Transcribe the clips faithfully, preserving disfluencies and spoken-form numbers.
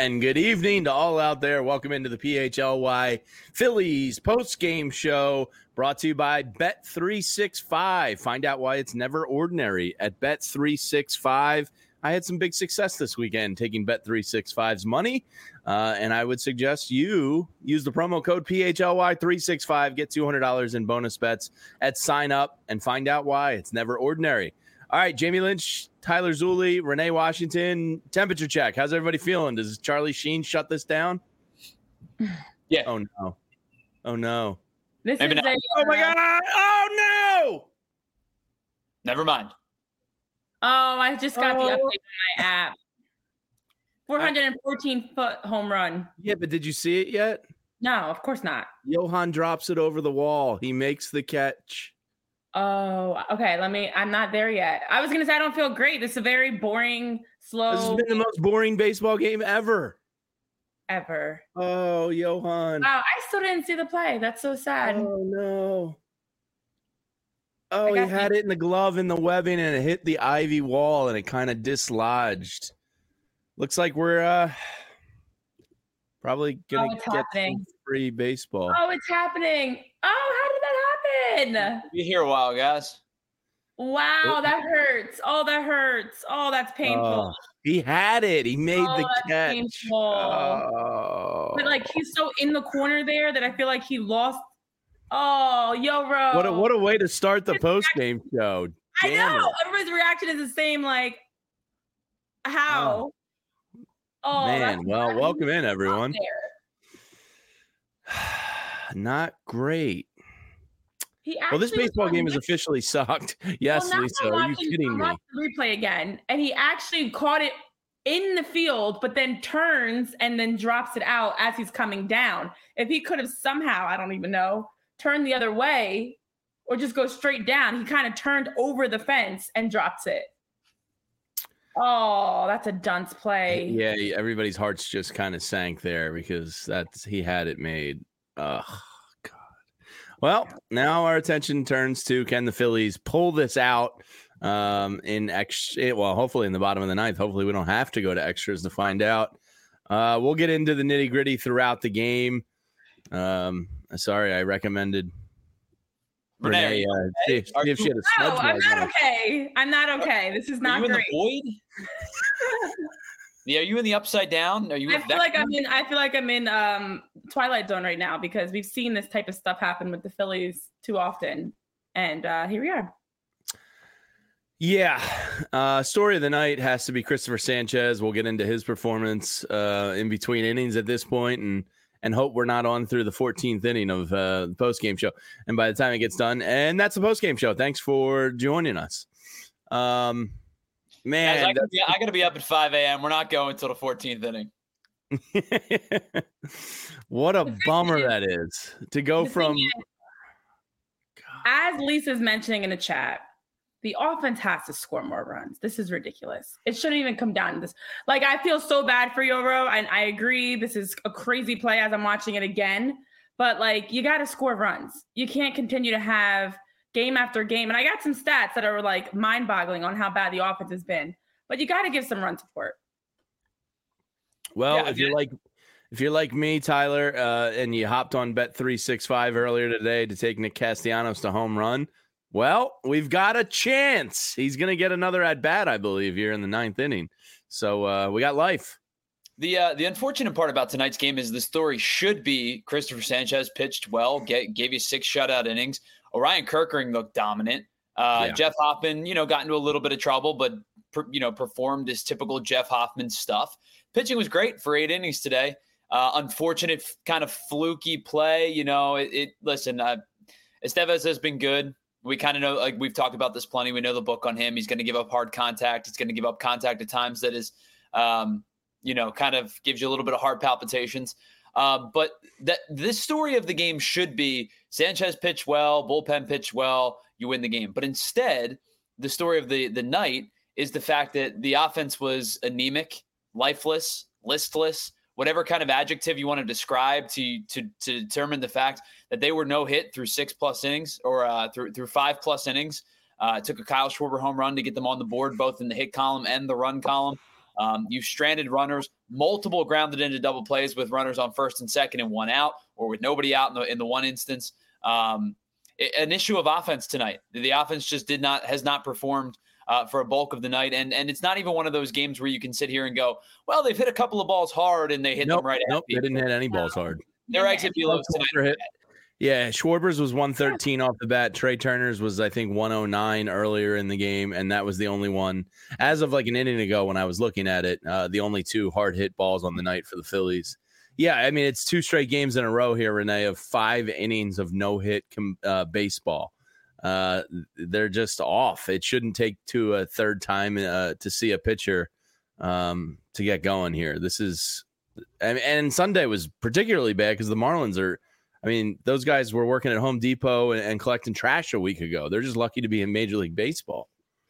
And good evening to all out there. Welcome into the P H L Y Phillies post-game show brought to you by Bet three sixty-five. Find out why it's never ordinary at Bet three sixty-five. I had some big success this weekend taking Bet three sixty-five's money, uh, and I would suggest you use the promo code P H L Y three sixty-five, get two hundred dollars in bonus bets at sign up, and find out why it's never ordinary. All right, Jamie Lynch, Tyler Zulli, Renee Washington, temperature check. How's everybody feeling? Does Charlie Sheen shut this down? Yeah. Oh, no. Oh, no. This Maybe is not. a, Oh, my God. Oh, no. Never mind. Oh, I just got Oh. the update on my app. four hundred fourteen foot home run. Yeah, but did you see it yet? No, of course not. Johan drops it over the wall. He makes the catch. Oh, okay. Let me. I'm not there yet. I was gonna say I don't feel great. This is a very boring, slow. This has been the most boring baseball game ever. ever. Oh, Johan. Wow, I still didn't see the play. That's so sad. Oh, no. Oh, he got had it in the glove in the webbing and it hit the ivy wall and it kind of dislodged. Looks like we're uh, probably going Oh, to it's get happening. some free baseball. Oh, it's happening. Oh, how did that happen? Be here a while, guys. Wow, that hurts. Oh, that hurts. Oh, that's painful. Oh, he had it. He made Oh, the that's catch. painful. Oh. But like he's so in the corner there that I feel like he lost. Oh, yo, bro. What a, what a way to start the post-game show. I Damn know. it. Everybody's reaction is the same. Like, how? Oh, Man, that's- well, that's welcome in, everyone. there. Not great. He Well, this actually was baseball on game is next- officially sucked. Yes, Well, now Lisa, I'm are you watching- kidding I'm me? watching the replay again, and he actually caught it in the field, but then turns and then drops it out as he's coming down. If he could have somehow, I don't even know, turned the other way or just go straight down, he kind of turned over the fence and drops it. Oh, that's a dunce play. Yeah, everybody's hearts just kind of sank there because that's he had it made. Ugh, God. Well, now our attention turns to can the Phillies pull this out um, in extra? Well, hopefully in the bottom of the ninth. Hopefully we don't have to go to extras to find out. Uh, we'll get into the nitty gritty throughout the game. Um, sorry, I recommended Renee. Renee, Uh, see if, see if she had a No, smudge I'm mark not on it. okay. I'm not okay. This is are not you in great. the void? Yeah, are you in the upside down? Are you? I with feel like Vecna? I'm in. I feel like I'm in um, Twilight Zone right now because we've seen this type of stuff happen with the Phillies too often, and uh, here we are. Yeah. Uh, story of the night has to be Christopher Sanchez. We'll get into his performance uh, in between innings at this point and and hope we're not on through the fourteenth inning of uh, the post-game show. And by the time it gets done, and that's the post-game show. Thanks for joining us. Um, man. Guys, I, gotta be, I gotta be up at five a.m. We're not going until the fourteenth inning. What a bummer that is to go The thing from. is, as Lisa's mentioning in the chat, the offense has to score more runs. This is ridiculous. It shouldn't even come down to this. Like, I feel so bad for Yoro, and I agree. This is a crazy play as I'm watching it again. But, like, you got to score runs. You can't continue to have game after game. And I got some stats that are, like, mind-boggling on how bad the offense has been. But you got to give some run support. Well, Yeah, if you're like if you're like me, Tyler, uh, and you hopped on Bet three sixty-five earlier today to take Nick Castellanos to home run, well, we've got a chance. He's going to get another at bat, I believe, here in the ninth inning. So uh, we got life. The uh, the unfortunate part about tonight's game is the story should be Christopher Sanchez pitched well, get, gave you six shutout innings. Orion Kerkering looked dominant. Uh, Yeah. Jeff Hoffman, you know, got into a little bit of trouble, but per, you know, performed his typical Jeff Hoffman stuff. Pitching was great for eight innings today. Uh, unfortunate f- kind of fluky play. You know, it, it listen, uh, Estevez has been good. We kind of know, like we've talked about this plenty. We know the book on him. He's going to give up hard contact. He's going to give up contact at times that is, um, you know, kind of gives you a little bit of heart palpitations. Uh, but that this story of the game should be Sanchez pitched well, bullpen pitched well, you win the game. But instead, the story of the the night is the fact that the offense was anemic, lifeless, listless, whatever kind of adjective you want to describe to to to determine the fact that they were no hit through six plus innings or uh, through through five plus innings. Uh, it took a Kyle Schwarber home run to get them on the board, both in the hit column and the run column. Um, you've stranded runners, multiple grounded into double plays with runners on first and second and one out, or with nobody out in the, in the one instance. Um, an issue of offense tonight. The offense just did not, has not performed uh, for a bulk of the night. And, and it's not even one of those games where you can sit here and go, well, they've hit a couple of balls hard and they hit nope, them right nope, at people. They didn't hit any balls hard. Their exit velos tonight. Yeah, Schwarber's was one thirteen off the bat. Trey Turner's was, I think, one oh nine earlier in the game, and that was the only one. As of like an inning ago when I was looking at it, uh, the only two hard-hit balls on the night for the Phillies. Yeah, I mean, it's two straight games in a row here, Renee, of five innings of no-hit com- uh, baseball. Uh, they're just off. It shouldn't take to a third time uh, to see a pitcher um, to get going here. This is – and Sunday was particularly bad because the Marlins are – I mean, those guys were working at Home Depot and, and collecting trash a week ago. They're just lucky to be in Major League Baseball.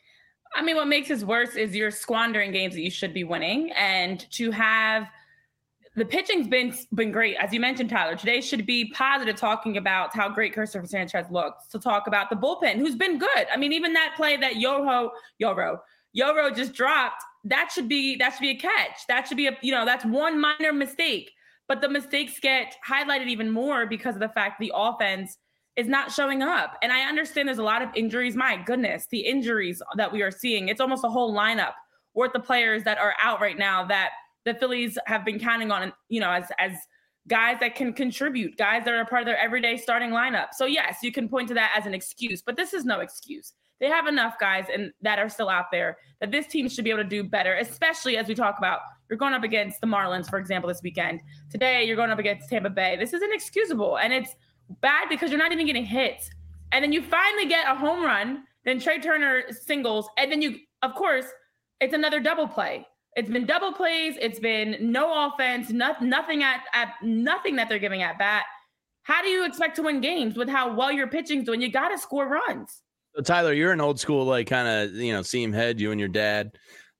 I mean, what makes this worse is you're squandering games that you should be winning. And to have the pitching's been been great. As you mentioned, Tyler, today should be positive, talking about how great Christopher Sanchez looks, to talk about the bullpen, who's been good. I mean, even that play that Yoho, Yoro, Yoro just dropped, that should be that should be a catch. That should be a, you know, that's one minor mistake. But the mistakes get highlighted even more because of the fact the offense is not showing up. And I understand there's a lot of injuries. My goodness, the injuries that we are seeing, it's almost a whole lineup worth the players that are out right now that the Phillies have been counting on, you know, as, as guys that can contribute, guys that are a part of their everyday starting lineup. So yes, you can point to that as an excuse, but this is no excuse. They have enough guys and that are still out there that this team should be able to do better, especially as we talk about you're going up against the Marlins, for example, this weekend. Today, you're going up against Tampa Bay. This is inexcusable, and it's bad because you're not even getting hits. And then you finally get a home run, then Trey Turner singles, and then you, of course, it's another double play. It's been double plays. It's been no offense, not, nothing at, at nothing that they're giving at bat. How do you expect to win games with how well your pitching's doing? You got to score runs. So Tyler, you're an old school, like kind of, you know, seam head, you and your dad.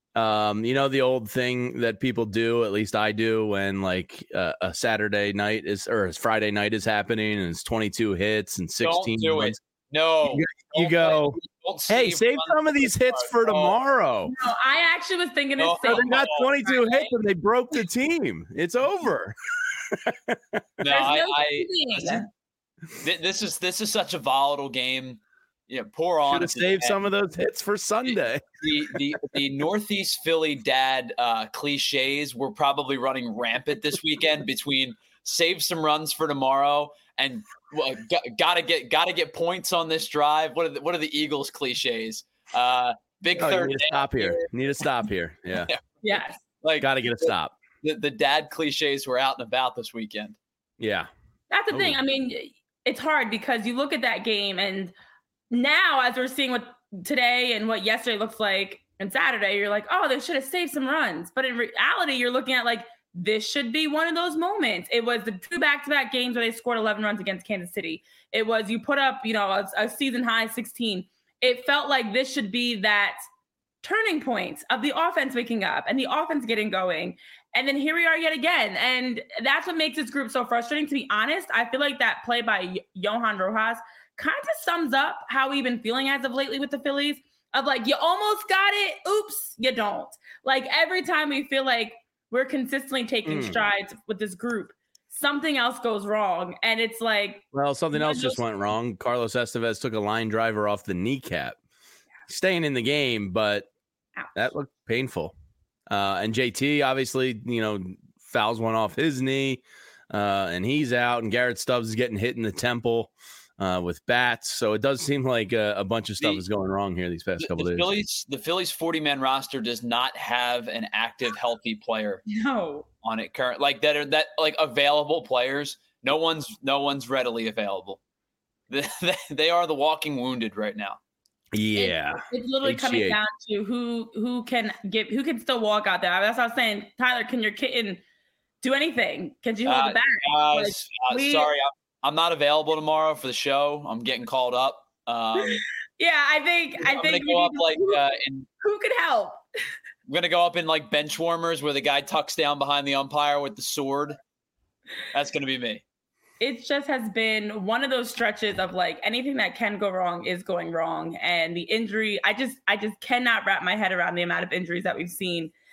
Um, you know, the old thing that people do, at least I do, when like uh, a Saturday night is or a Friday night is happening and it's twenty-two hits and sixteen. Don't do runs. it. No. You, you go, hey, save some of these hits for tomorrow. No, I actually was thinking the No, same. So they got twenty-two hits and they broke the team. It's over. No, I, I listen, this is this is such a volatile game. Yeah, pour on. Should have saved some of those hits for Sunday. The the the Northeast Philly dad uh, cliches were probably running rampant this weekend between save some runs for tomorrow and well, got, gotta get gotta get points on this drive. What are the, what are the Eagles cliches? Uh, big oh, third. You need to stop here. here. Need to stop here. Yeah. Yes. Like gotta get a stop. The, the dad cliches were out and about this weekend. Yeah. That's the oh. thing. I mean, it's hard because you look at that game and now, as we're seeing what today and what yesterday looks like and Saturday, you're like, oh, they should have saved some runs. But in reality, you're looking at like, this should be one of those moments. It was the two back-to-back games where they scored eleven runs against Kansas City. It was you put up, you know, a, a season high sixteen. It felt like this should be that turning point of the offense waking up and the offense getting going. And then here we are yet again. And that's what makes this group so frustrating. To be honest, I feel like that play by Johan Rojas kind of sums up how we've been feeling as of lately with the Phillies of like, you almost got it. Oops, you don't. Like every time we feel like we're consistently taking mm. strides with this group, something else goes wrong. And it's like, well, something else just went wrong. Carlos Estevez took a line driver off the kneecap, staying in the game, but Ouch. That looked painful. Uh, and J T obviously, you know, fouls one off his knee uh, and he's out, and Garrett Stubbs is getting hit in the temple. Uh, with bats, so it does seem like a, a bunch of stuff the, is going wrong here these past the, couple the days. Phillies, the Phillies forty-man roster does not have an active, healthy player no. on it current, like that are that like available players. No one's no one's readily available. They, they are the walking wounded right now. Yeah, it's, it's literally H G H. Coming down to who who can give who can still walk out there. That's what I was saying. Tyler, can your kitten do anything? Can you hold uh, the bat? Guys, like, uh, we, sorry. I'm, I'm not available tomorrow for the show. I'm getting called up. Um, yeah, I think I I'm think gonna go up like who, uh, in, who could help? I'm gonna go up in like bench warmers where the guy tucks down behind the umpire with the sword. That's gonna be me. It just has been one of those stretches of like anything that can go wrong is going wrong, and the injury. I just I just cannot wrap my head around the amount of injuries that we've seen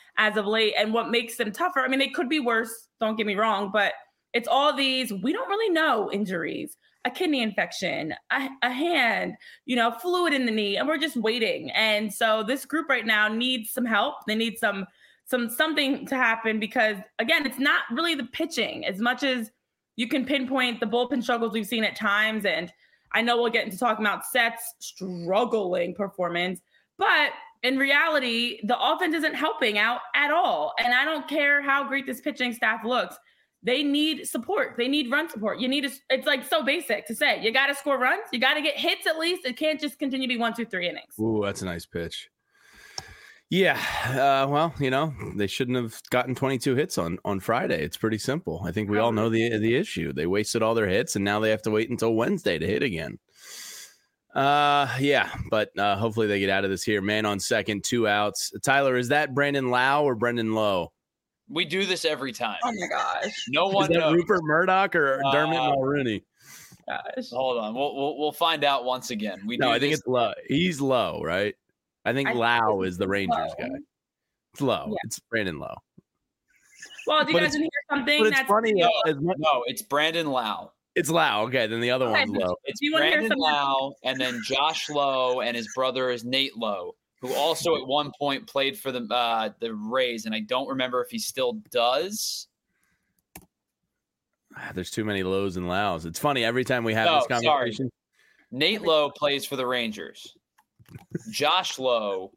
as of late. And what makes them tougher, I mean, they could be worse, don't get me wrong, but it's all these, we don't really know injuries, a kidney infection, a, a hand, you know, fluid in the knee, and we're just waiting. And so this group right now needs some help. They need some, some, something to happen because, again, it's not really the pitching as much as you can pinpoint the bullpen struggles we've seen at times. And I know we'll get into talking about Seth's struggling performance, but in reality, the offense isn't helping out at all. And I don't care how great this pitching staff looks. They need support. They need run support. You need to, it's like so basic to say, you got to score runs. You got to get hits at least. It can't just continue to be one, two, three innings. Ooh, that's a nice pitch. Yeah. Uh, well, you know, they shouldn't have gotten twenty-two hits on, on Friday. It's pretty simple. I think we all know the, the issue. They wasted all their hits and now they have to wait until Wednesday to hit again. Uh, yeah, but uh, hopefully they get out of this here. Man on second, two outs. Tyler, is that Brandon Lau or Brendan Lowe? We do this every time. Oh my gosh! No one is that knows. Rupert Murdoch or uh, Dermot Mulroney? Gosh. Hold on, we'll, we'll we'll find out once again. We no, do I think this- it's Lowe. He's Lowe, right? I think I Lau think is the Rangers Lowe. guy. It's Lowe. Yeah. It's Brandon Lowe. Well, do you but guys hear something? But it's that's funny. No, uh, much- no, it's Brandon Lau. It's Lau. Okay, then the other okay, one's Lowe. It's Brandon Lau, and then Josh Lowe, and his brother is Nate Lowe, who also at one point played for the uh, the Rays, and I don't remember if he still does. There's too many Lows and Laus. It's funny every time we have no, this conversation. Sorry. Nate Lowe plays for the Rangers. Josh Lowe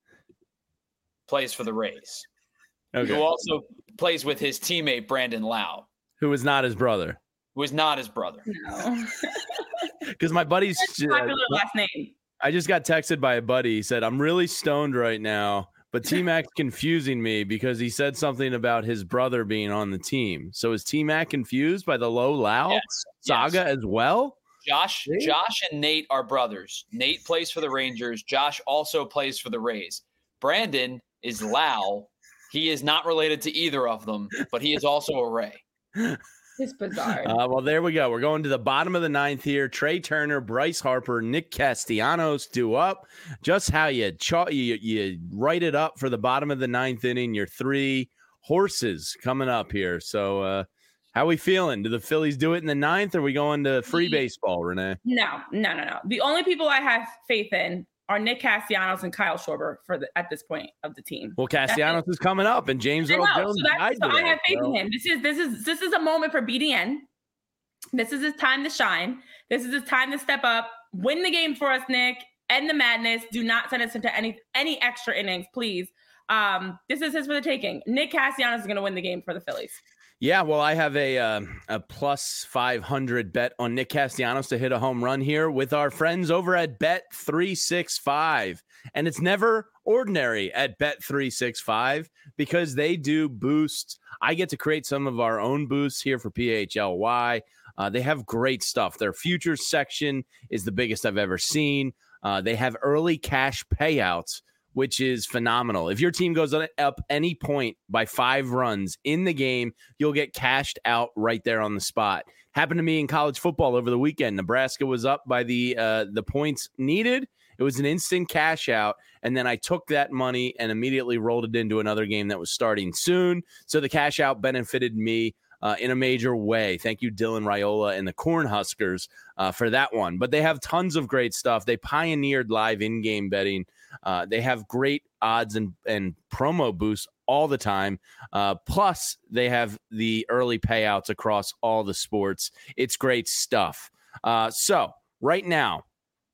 plays for the Rays. Okay. Who also plays with his teammate Brandon Lau, who is not his brother. Who is not his brother. No. Because my buddy's uh, popular last name. I just got texted by a buddy. He said, I'm really stoned right now, but T-Mac's confusing me because he said something about his brother being on the team. So is T-Mac confused by the Low Lau yes, saga yes. as well? Josh, Josh and Nate are brothers. Nate plays for the Rangers. Josh also plays for the Rays. Brandon is Lau. He is not related to either of them, but he is also a Ray. It's bizarre. Uh, well, there we go. We're going to the bottom of the ninth here. Trey Turner, Bryce Harper, Nick Castellanos due up. Just how you, cha- you you write it up for the bottom of the ninth inning. Your three horses coming up here. So uh, how we feeling? Do the Phillies do it in the ninth, or are we going to free baseball, Renee? No, no, no, no. The only people I have faith in are Nick Castellanos and Kyle Schwarber for the, at this point of the team. Well, Castellanos is coming up, and James Earl Jones so, died so today, I have faith so. in him. This is this is this is a moment for B D N. This is his time to shine. This is his time to step up, win the game for us, Nick. End the madness. Do not send us into any any extra innings, please. Um, this is his for the taking. Nick Castellanos is going to win the game for the Phillies. Yeah, well, I have a uh, a plus five hundred bet on Nick Castellanos to hit a home run here with our friends over at Bet three sixty-five. And it's never ordinary at Bet three sixty-five because they do boosts. I get to create some of our own boosts here for P H L Y. Uh, they have great stuff. Their futures section is the biggest I've ever seen. Uh, they have early cash payouts, which is phenomenal. If your team goes up any point by five runs in the game, you'll get cashed out right there on the spot. Happened to me in college football over the weekend. Nebraska was up by the uh, the points needed. It was an instant cash out, and then I took that money and immediately rolled it into another game that was starting soon. So the cash out benefited me uh, in a major way. Thank you, Dylan Raiola and the Cornhuskers uh, for that one. But they have tons of great stuff. They pioneered live in-game betting. Uh, they have great odds and, and promo boosts all the time. Uh, plus, they have the early payouts across all the sports. It's great stuff. Uh, so right now,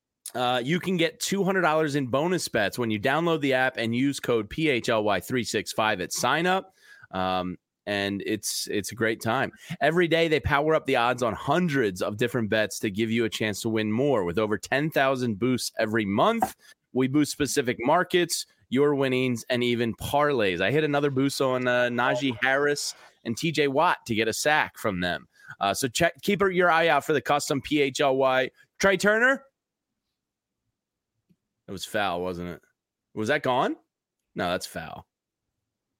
uh, you can get two hundred dollars in bonus bets when you download the app and use code P H L Y three sixty-five at sign up. Um, and it's it's a great time. Every day they power up the odds on hundreds of different bets to give you a chance to win more. With over ten thousand boosts every month, we boost specific markets, your winnings, and even parlays. I hit another boost on uh, Najee Harris and T J Watt to get a sack from them. Uh, so check, keep your eye out for the custom P H L Y. Trey Turner? It was foul, wasn't it? Was that gone? No, that's foul.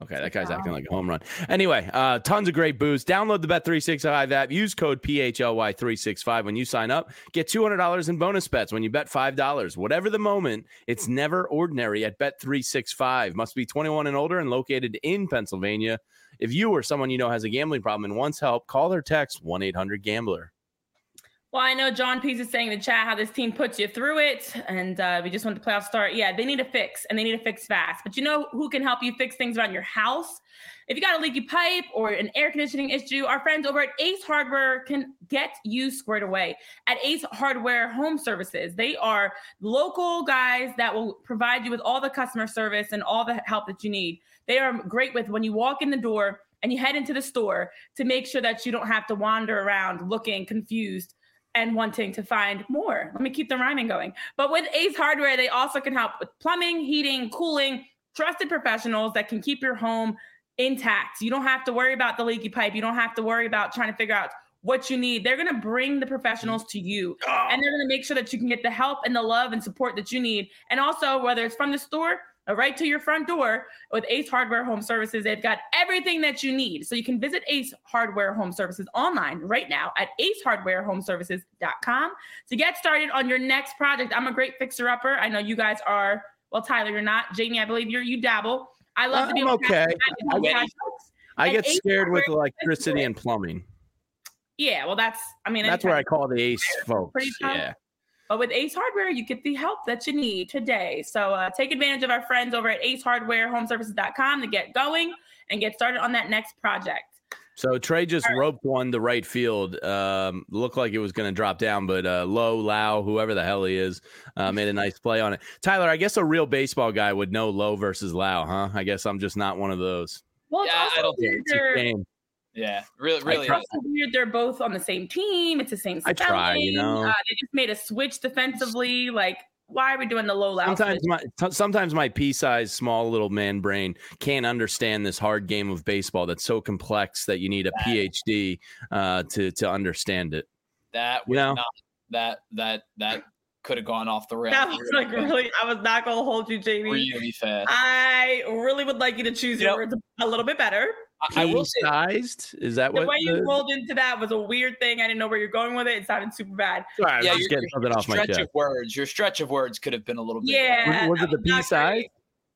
Okay, that guy's acting like a home run. Anyway, uh, tons of great boosts. Download the Bet three sixty-five app. Use code P H L Y three sixty-five when you sign up. Get two hundred dollars in bonus bets when you bet five dollars. Whatever the moment, it's never ordinary at Bet three sixty-five. Must be twenty-one and older and located in Pennsylvania. If you or someone you know has a gambling problem and wants help, call or text one eight hundred gambler. Well, I know John Pease is saying in the chat how this team puts you through it, and uh, we just want the playoff start. Yeah, they need a fix, and they need to fix fast. But you know who can help you fix things around your house? If you got a leaky pipe or an air conditioning issue, our friends over at Ace Hardware can get you squared away. At Ace Hardware Home Services, they are local guys that will provide you with all the customer service and all the help that you need. They are great with when you walk in the door and you head into the store to make sure that you don't have to wander around looking confused and wanting to find more. Let me keep the rhyming going. But with Ace Hardware, they also can help with plumbing, heating, cooling, trusted professionals that can keep your home intact. You don't have to worry about the leaky pipe. You don't have to worry about trying to figure out what you need. They're going to bring the professionals to you, and they're going to make sure that you can get the help and the love and support that you need. And also, whether it's from the store or right to your front door, with Ace Hardware Home Services, they've got everything that you need. So you can visit Ace Hardware Home Services online right now at ace hardware home services dot com to get started on your next project. I'm a great fixer-upper. I know you guys are. Well, Tyler, you're not. Jamie, I believe you're. You dabble. I love uh, to be I'm okay. I, get, I get scared with electricity and plumbing. Yeah, well, that's. I mean, that's where I call the Ace folks. Yeah. But with Ace Hardware, you get the help that you need today. So uh, take advantage of our friends over at ace hardware home services dot com to get going and get started on that next project. So Trey just right. roped one to right field. Um, looked like it was going to drop down, but uh, Low, Lau, whoever the hell he is, uh, made a nice play on it. Tyler, I guess a real baseball guy would know Low versus Lau, huh? I guess I'm just not one of those. Well, yeah, I don't think it's a game. Yeah, really, really. It's weird. They're both on the same team. It's the same spelling. I try, you know. Uh, they just made a switch defensively. Like, why are we doing the low loud? Sometimes my t- sometimes my pea-sized, small little man brain can't understand this hard game of baseball that's so complex that you need a that, PhD uh, to to understand it. That was you know? not that that that could have gone off the rails. That was like really. I was not going to hold you, Jamie. Really fast. I really would like you to choose you your know, words a little bit better. I will say, sized. Is that the what way you the... rolled into that was a weird thing? I didn't know where you're going with it. It sounded super bad. Sorry, yeah, I'm just getting something off my chest. Stretch of words. Your stretch of words could have been a little bit. Yeah. Was, was it the P size?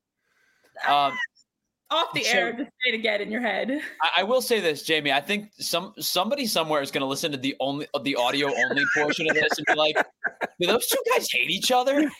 Um, off the so, air, just say it again in your head. I, I will say this, Jamie. I think some somebody somewhere is going to listen to the only the audio only portion of this and be like, "Do those two guys hate each other?"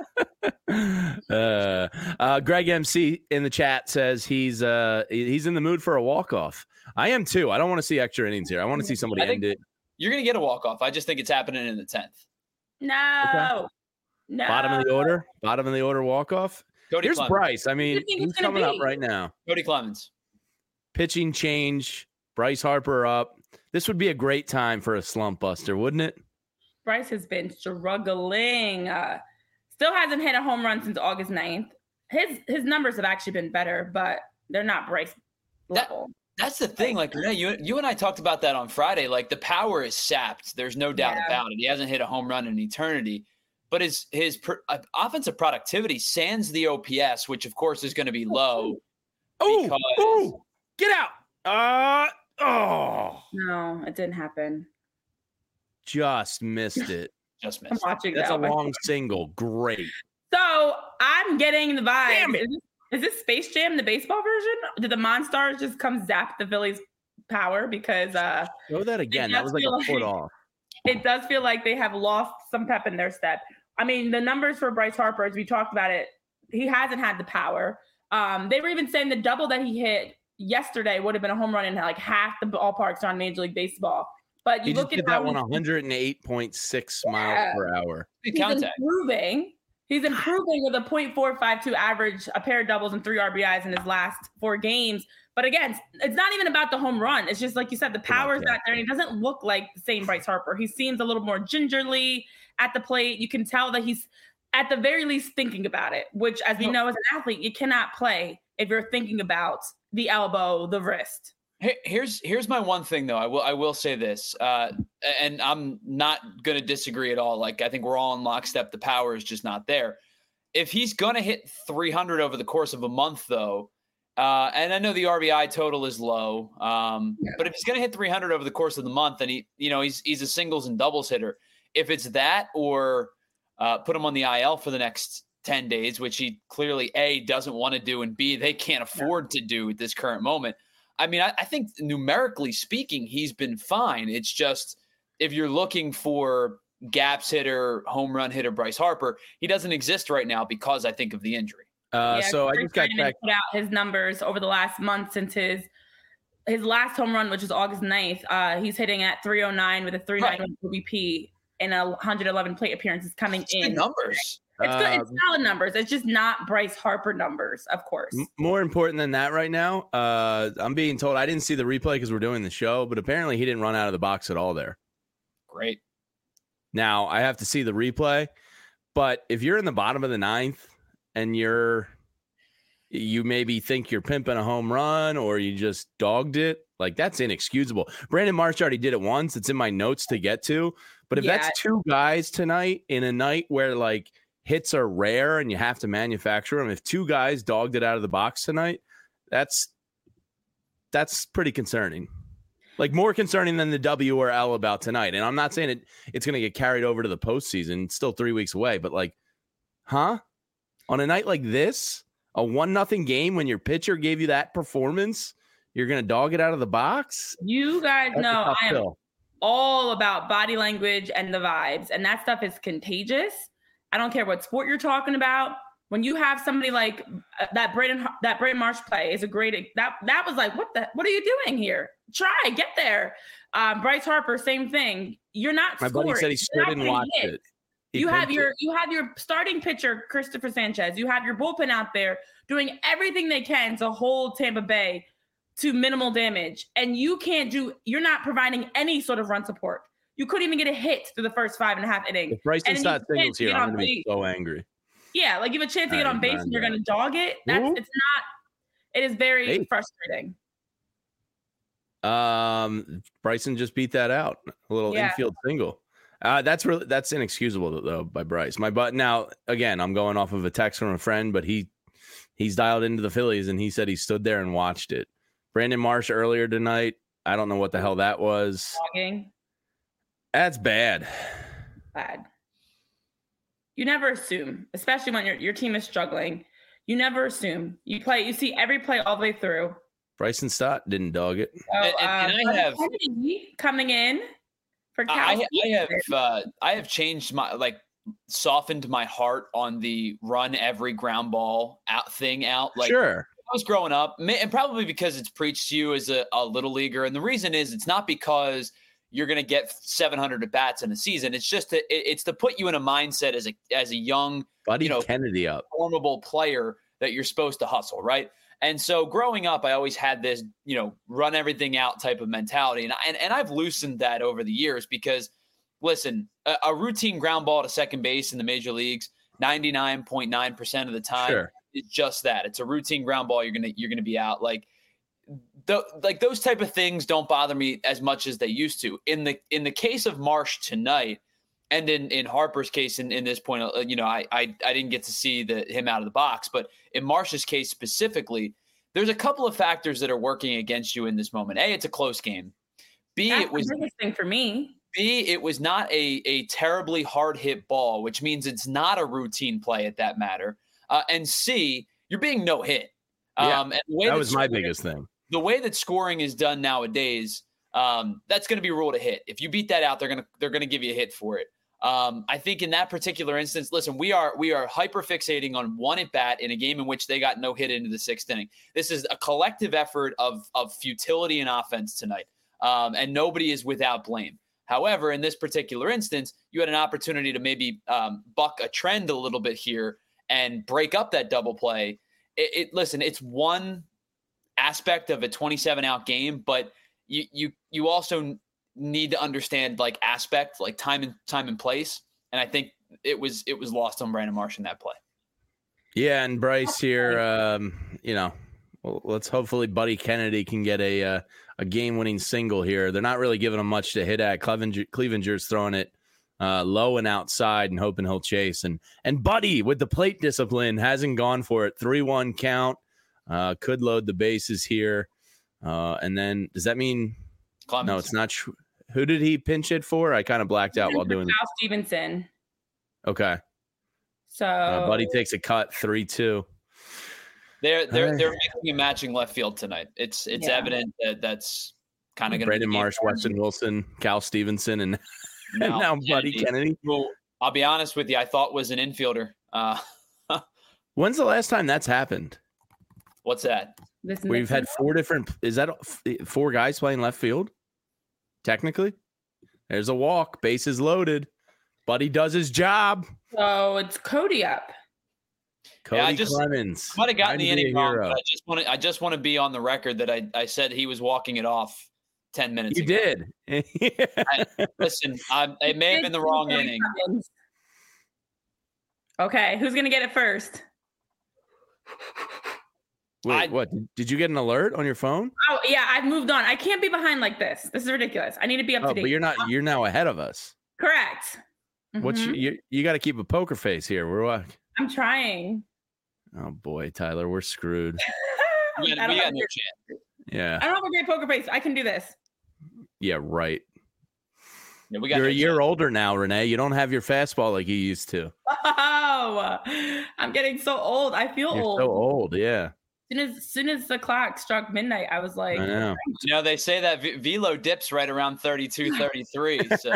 uh, uh, Greg M C in the chat says he's uh he's in the mood for a walk off. I am too. I don't want to see extra innings here. I want to see somebody end it. You're going to get a walk off. I just think it's happening in the tenth. No, okay. no. Bottom of the order. Bottom of the order walk off. Cody Here's Clemens. Bryce. I mean, he's coming be? up right now. Cody Clemens. Pitching change. Bryce Harper up. This would be a great time for a slump buster, wouldn't it? Bryce has been struggling. Uh, still hasn't hit a home run since August ninth. His his numbers have actually been better, but they're not Bryce level. That, that's the thing. Like, you, you and I talked about that on Friday. Like, the power is sapped. There's no doubt yeah. about it. He hasn't hit a home run in eternity. But his his pro, uh, offensive productivity sans the O P S, which of course is going to be low. Oh, because... oh, get out! Uh oh, no, it didn't happen. Just missed it. Just missed. I'm watching. That's that. a long single. Great. So I'm getting the vibe. Damn it. Is this, is this Space Jam, the baseball version? Did the Monstars just come zap the Phillies' power? Because uh, show that again. That was like a like, foot off. It does feel like they have lost some pep in their step. I mean, the numbers for Bryce Harper, as we talked about it, he hasn't had the power. Um, they were even saying the double that he hit yesterday would have been a home run in like half the ballparks on Major League Baseball. But you he look just at did how that one one oh eight point six yeah. miles per hour. He's improving. He's improving with a point four five two average, a pair of doubles and three R B Is in his last four games. But again, it's not even about the home run. It's just like you said, the power is not there. And he doesn't look like the same Bryce Harper. He seems a little more gingerly at the plate. You can tell that he's at the very least thinking about it, which, as we know, as an athlete, you cannot play if you're thinking about the elbow, the wrist. Here's here's my one thing, though. I will I will say this, uh, and I'm not going to disagree at all. Like, I think we're all in lockstep. The power is just not there. If he's going to hit three hundred over the course of a month, though, Uh, and I know the R B I total is low, um, yeah. but if he's going to hit three hundred over the course of the month, then he, you know, he's he's a singles and doubles hitter. If it's that, or uh, put him on the I L for the next ten days, which he clearly A, doesn't want to do, and B, they can't afford to do at this current moment. I mean, I, I think numerically speaking, he's been fine. It's just if you're looking for gaps hitter, home run hitter Bryce Harper, he doesn't exist right now because I think of the injury. Uh, yeah, so I just got back. Put out his numbers over the last month since his his last home run, which is August ninth. Uh, he's hitting at three oh nine with a three ninety-one O B P and a one hundred eleven plate appearances coming it's in. Good numbers. It's good. It's solid numbers. It's just not Bryce Harper numbers, of course. More important than that right now, uh, I'm being told, I didn't see the replay because we're doing the show, but apparently he didn't run out of the box at all there. Great. Now, I have to see the replay, but if you're in the bottom of the ninth and you're, you maybe think you're pimping a home run or you just dogged it, like that's inexcusable. Brandon Marsh already did it once. It's in my notes to get to, but if yeah. that's two guys tonight in a night where like hits are rare and you have to manufacture them, if two guys dogged it out of the box tonight, that's, that's pretty concerning. Like more concerning than the W or L about tonight. And I'm not saying it, it's going to get carried over to the postseason. It's still three weeks away, but like, huh? On a night like this, a one nothing game when your pitcher gave you that performance, you're going to dog it out of the box? You guys That's know I am pill. all about body language and the vibes, and that stuff is contagious. I don't care what sport you're talking about. When you have somebody like uh, that, Braden that Braden Marsh play is a great. That that was like, what the? What are you doing here? Try get there. Um, Bryce Harper, same thing. You're not. My scoring. buddy said he stood and watched hit. it. He you have your it. you have your starting pitcher Christopher Sanchez. You have your bullpen out there doing everything they can to hold Tampa Bay to minimal damage, and you can't do. You're not providing any sort of run support. You couldn't even get a hit through the first five and a half innings. If Bryson not singles here, I'm going to be so angry. Yeah, like you have a chance to get on base and you're going to dog it. That's Ooh. It's not. It is very hey. frustrating. Um, Bryson just beat that out. A little yeah. infield single. Uh, that's really that's inexcusable though by Bryce. My but now again, I'm going off of a text from a friend, but he he's dialed into the Phillies and he said he stood there and watched it. Brandon Marsh earlier tonight. I don't know what the hell that was. Dogging. That's bad. Bad. You never assume, especially when your your team is struggling. You never assume. You play. You see every play all the way through. Bryson Stott didn't dog it. So, and, and, and uh, I have coming in for Cal I, I have uh, I have changed my like softened my heart on the run every ground ball out thing out. Like sure. I was growing up, and probably because it's preached to you as a, a little leaguer, and the reason is it's not because you're going to get seven hundred at bats in a season. It's just to, it, it's to put you in a mindset as a as a young, Buddy you know, Kennedy up, formidable player that you're supposed to hustle, right? And so growing up, I always had this, you know, run everything out type of mentality, and and, and I've loosened that over the years because, listen, a, a routine ground ball to second base in the major leagues, ninety-nine point nine percent of the time, sure. is just that. It's a routine ground ball. You're gonna you're gonna be out like. The, like those type of things don't bother me as much as they used to. In the in the case of Marsh tonight, and in, in Harper's case, in, in this point, uh, you know, I, I I didn't get to see the him out of the box, but in Marsh's case specifically, there's a couple of factors that are working against you in this moment. A, it's a close game. B, That's it was the biggest thing for me. B, it was not a a terribly hard hit ball, which means it's not a routine play at that matter. Uh, and C, you're being no hit. Yeah, um, and the way that was my biggest thing. The way that scoring is done nowadays, um, that's going to be ruled a hit. If you beat that out, they're going to they're going to give you a hit for it. Um, I think in that particular instance, listen, we are we are hyper fixating on one at bat in a game in which they got no hit into the sixth inning. This is a collective effort of of futility and offense tonight, um, and nobody is without blame. However, in this particular instance, you had an opportunity to maybe um, buck a trend a little bit here and break up that double play. It, it listen, it's one aspect of a twenty-seven out game, but you you you also need to understand like aspect, like time and time and place. And I think it was it was lost on Brandon Marsh in that play. Yeah, and Bryce here, um, you know, well, let's hopefully Buddy Kennedy can get a uh, a game winning single here. They're not really giving him much to hit at. Clevenger, Clevenger's throwing it uh, low and outside and hoping he'll chase. And and Buddy with the plate discipline hasn't gone for it. three one count. Uh, could load the bases here. Uh, and then does that mean Clemens. No, it's not. Tr- Who did he pinch it for? I kind of blacked out while doing Kyle Stevenson. Okay. So uh, Buddy takes a cut three two. They're they're they're making a matching left field tonight. It's it's yeah. evident that that's kind of going to be Brandon Marsh, Weston Wilson, Cal Stevenson, and, no, and now Buddy Kennedy. Kennedy. Well, I'll be honest with you. I thought was an infielder. Uh, When's the last time that's happened? What's that? This We've had four different. Is that four guys playing left field? Technically, there's a walk. Bases loaded. Buddy does his job. So it's Cody up. Cody yeah, I just, Clemens. Might have gotten the inning wrong, but I just want to. I just want to be on the record that I, I said he was walking it off ten minutes you ago. You did. I, listen, I, it may have been the wrong inning. Okay, who's gonna get it first? Wait, I, what? Did you get an alert on your phone? Oh yeah, I've moved on. I can't be behind like this. This is ridiculous. I need to be up oh, to date. But you're not. You're now ahead of us. Correct. What's mm-hmm. you? You, you got to keep a poker face here. We're what? I'm trying. Oh boy, Tyler, we're screwed. we got, we got no chance. Yeah. I don't have a great poker face. I can do this. Yeah, right. Yeah, we got You're no a year chance. older now, Renee. You don't have your fastball like you used to. Oh, I'm getting so old. I feel You're old. So old, yeah. As soon as, as soon as the clock struck midnight, I was like, I know. You know, they say that v- velo dips right around thirty-two, thirty-three. So,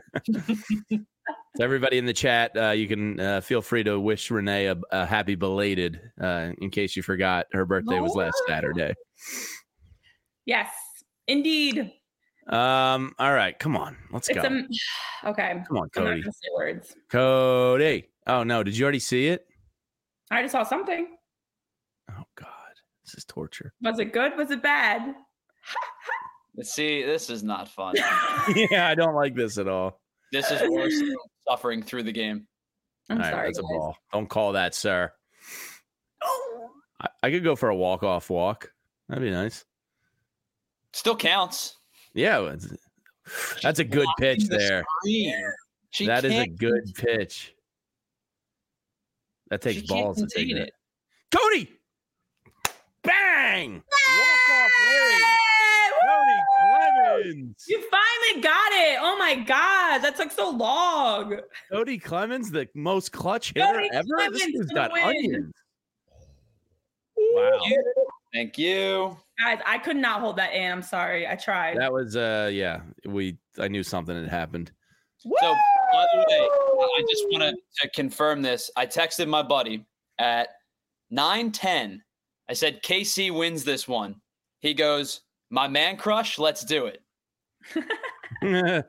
so everybody in the chat, uh, you can uh, feel free to wish Renee a, a happy belated, uh, in case you forgot her birthday was last Saturday. Yes, indeed. Um. All right, come on, let's it's go. A, okay, come on, Cody. I'm not gonna say words. Cody. Oh no, did you already see it? I just saw something. Oh God, this is torture. Was it good? Was it bad? See, this is not fun. Yeah, I don't like this at all. This is worse than suffering through the game. I'm all right, sorry, that's guys. a ball. Don't call that, sir. I, I could go for a walk-off walk. That'd be nice. Still counts. Yeah, that's a good pitch the there. That is a good pitch. That takes balls to take it. Cody! Bang! Walk-off win. Cody Clemens. You finally got it. Oh my God. That took so long. Cody Clemens, the most clutch hitter Cody ever. Clemens This has for got the win. onions. Wow. Thank you. Thank you. Guys, I could not hold that in. I'm sorry. I tried. That was uh yeah, we I knew something had happened. Woo! So, by the way, I just want to confirm this. I texted my buddy at nine ten. I said, K C wins this one. He goes, my man crush, let's do it. Thanks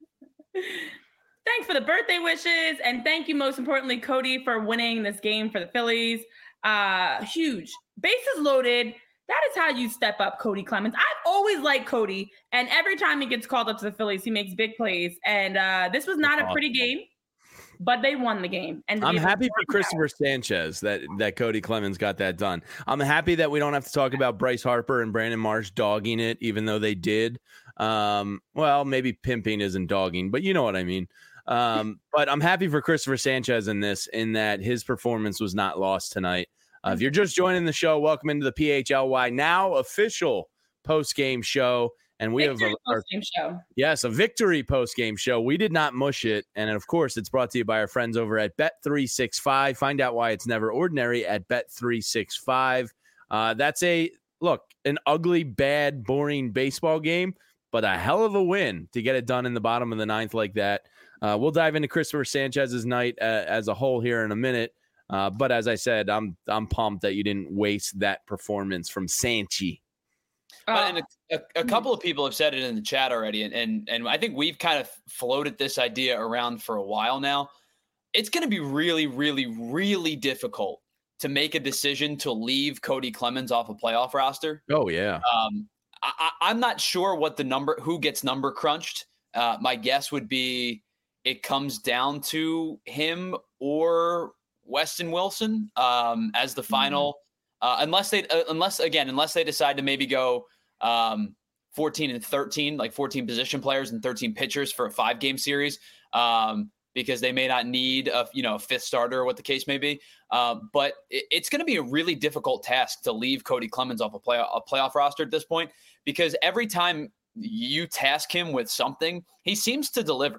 for the birthday wishes. And thank you, most importantly, Cody, for winning this game for the Phillies. Uh, huge. Bases loaded. That is how you step up, Cody Clemens. I've always liked Cody. And every time he gets called up to the Phillies, he makes big plays. And uh, this was not That's a pretty awesome. game. But they won the game. And I'm happy for Christopher Sanchez that, that Cody Clemens got that done. I'm happy that we don't have to talk about Bryce Harper and Brandon Marsh dogging it, even though they did. Um, well, maybe pimping isn't dogging, but you know what I mean. Um, but I'm happy for Christopher Sanchez in this, in that his performance was not lost tonight. Uh, if you're just joining the show, welcome into the P H L Y now official post-game show. And we victory have a post-game show. Yes, a victory post-game show. We did not mush it. And of course, it's brought to you by our friends over at Bet three sixty-five. Find out why it's never ordinary at Bet three sixty-five. Uh, that's a, look, an ugly, bad, boring baseball game, but a hell of a win to get it done in the bottom of the ninth like that. Uh, we'll dive into Christopher Sanchez's night uh, as a whole here in a minute. Uh, but as I said, I'm I'm pumped that you didn't waste that performance from Sanchi. Uh, and a, a, a couple of people have said it in the chat already, and, and and I think we've kind of floated this idea around for a while now. It's going to be really, really, really difficult to make a decision to leave Cody Clemens off a playoff roster. Oh yeah. Um, I, I'm not sure what the number, who gets number crunched. Uh, my guess would be it comes down to him or Weston Wilson um, as the final. Uh, unless they, uh, unless again, unless they decide to maybe go um, fourteen and thirteen, like fourteen position players and thirteen pitchers for a five game series. Um, because they may not need a, you know, a fifth starter or what the case may be. Uh, but it, it's going to be a really difficult task to leave Cody Clemens off a, play, a playoff roster at this point, because every time you task him with something, he seems to deliver.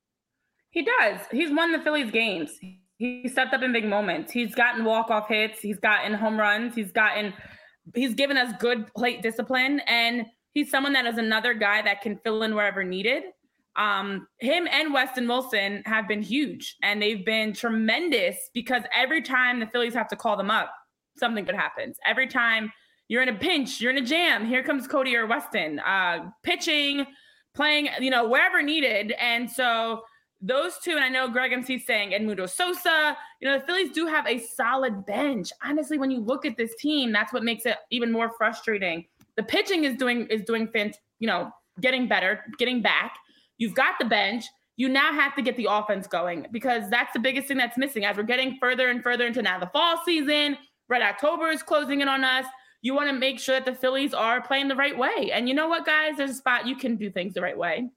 He does. He's won the Phillies games. He stepped up in big moments. He's gotten walk-off hits. He's gotten home runs. He's gotten, he's given us good plate discipline. And he's someone that is another guy that can fill in wherever needed. Um, him and Weston Wilson have been huge, and they've been tremendous because every time the Phillies have to call them up, something good happens. Every time you're in a pinch, you're in a jam, here comes Cody or Weston, uh, pitching, playing, you know, wherever needed. And so those two, and I know Greg M C saying Edmundo Sosa, you know, the Phillies do have a solid bench. Honestly, when you look at this team, that's what makes it even more frustrating. The pitching is doing, is doing, fant- you know, getting better, getting back. You've got the bench. You now have to get the offense going, because that's the biggest thing that's missing as we're getting further and further into now the fall season. Red October is closing in on us. You want to make sure that the Phillies are playing the right way. And you know what, guys? There's a spot you can do things the right way.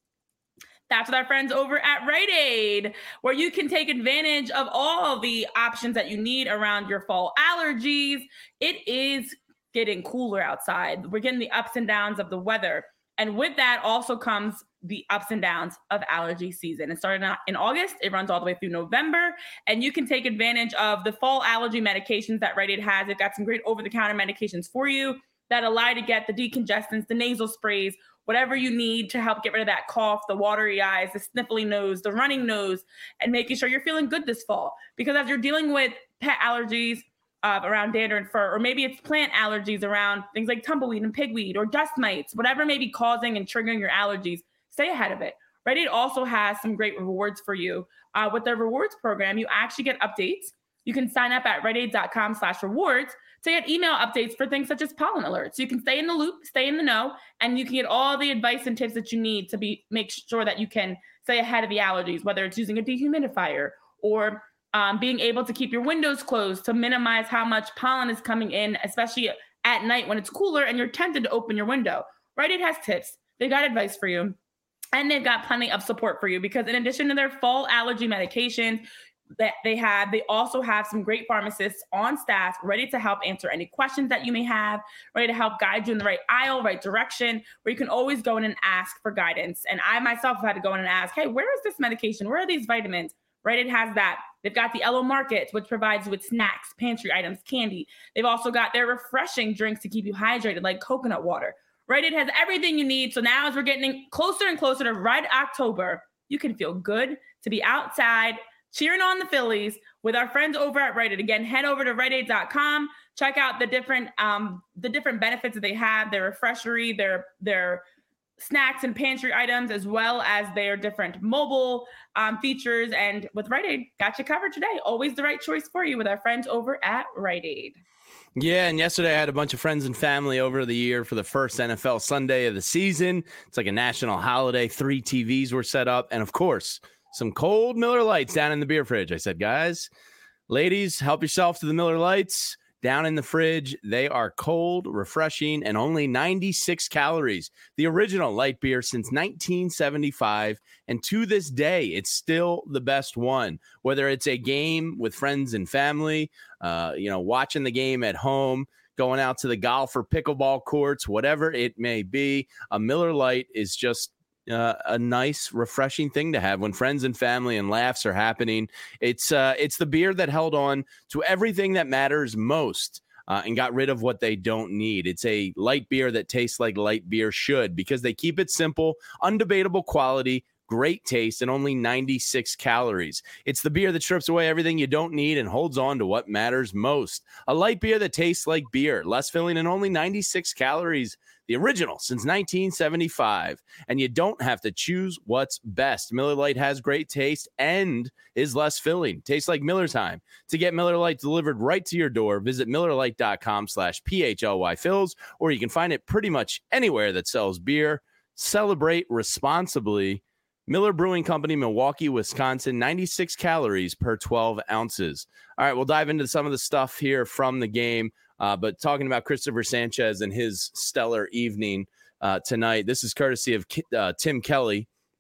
That's with our friends over at Rite Aid, where you can take advantage of all the options that you need around your fall allergies. It is getting cooler outside. We're getting the ups and downs of the weather. And with that also comes the ups and downs of allergy season. It started in August. It runs all the way through November. And you can take advantage of the fall allergy medications that Rite Aid has. They've got some great over-the-counter medications for you that allow you to get the decongestants, the nasal sprays, whatever you need to help get rid of that cough, the watery eyes, the sniffly nose, the running nose, and making sure you're feeling good this fall. Because as you're dealing with pet allergies, Uh, around dander and fur, or maybe it's plant allergies around things like tumbleweed and pigweed or dust mites, whatever may be causing and triggering your allergies, stay ahead of it. Rite Aid also has some great rewards for you. Uh, with their rewards program, you actually get updates. You can sign up at riteaid.com slash rewards to get email updates for things such as pollen alerts. So you can stay in the loop, stay in the know, and you can get all the advice and tips that you need to be make sure that you can stay ahead of the allergies, whether it's using a dehumidifier or Um, being able to keep your windows closed to minimize how much pollen is coming in, especially at night when it's cooler and you're tempted to open your window. Rite Aid has tips. They've got advice for you. And they've got plenty of support for you, because in addition to their fall allergy medications that they have, they also have some great pharmacists on staff ready to help answer any questions that you may have, ready to help guide you in the right aisle, right direction, where you can always go in and ask for guidance. And I myself have had to go in and ask, hey, where is this medication? Where are these vitamins? Rite Aid has that. They've got the Elo Market, which provides you with snacks, pantry items, candy. They've also got their refreshing drinks to keep you hydrated, like coconut water. Rite Aid has everything you need. So now as we're getting closer and closer to Red October, you can feel good to be outside cheering on the Phillies with our friends over at Rite Aid. Again, head over to rite aid dot com. Check out the different um, the different benefits that they have, their refreshery, their their snacks and pantry items, as well as their different mobile um, features. And with Rite Aid, got you covered today. Always the right choice for you with our friends over at Rite Aid. Yeah, and yesterday I had a bunch of friends and family over the year for the first N F L Sunday of the season. It's like a national holiday. Three T Vs were set up. And, of course, some cold Miller Lights down in the beer fridge. I said, guys, ladies, help yourself to the Miller Lights. Down in the fridge, they are cold, refreshing, and only ninety-six calories. The original light beer since nineteen seventy-five, and to this day, it's still the best one. Whether it's a game with friends and family, uh, you know, watching the game at home, going out to the golf or pickleball courts, whatever it may be, a Miller Lite is just Uh, a nice, refreshing thing to have when friends and family and laughs are happening. It's uh, it's the beer that held on to everything that matters most uh, and got rid of what they don't need. It's a light beer that tastes like light beer should, because they keep it simple, undebatable quality, great taste, and only ninety-six calories. It's the beer that strips away everything you don't need and holds on to what matters most. A light beer that tastes like beer, less filling, and only ninety-six calories. The original since nineteen seventy-five. And you don't have to choose what's best. Miller Lite has great taste and is less filling. Tastes like Miller time. To get Miller Lite delivered right to your door, visit miller lite dot com slash P H L Y Phils, or you can find it pretty much anywhere that sells beer. Celebrate responsibly. Miller Brewing Company, Milwaukee, Wisconsin, ninety-six calories per twelve ounces. All right, we'll dive into some of the stuff here from the game. Uh, but talking about Christopher Sanchez and his stellar evening uh, tonight, this is courtesy of uh, Tim Kelly.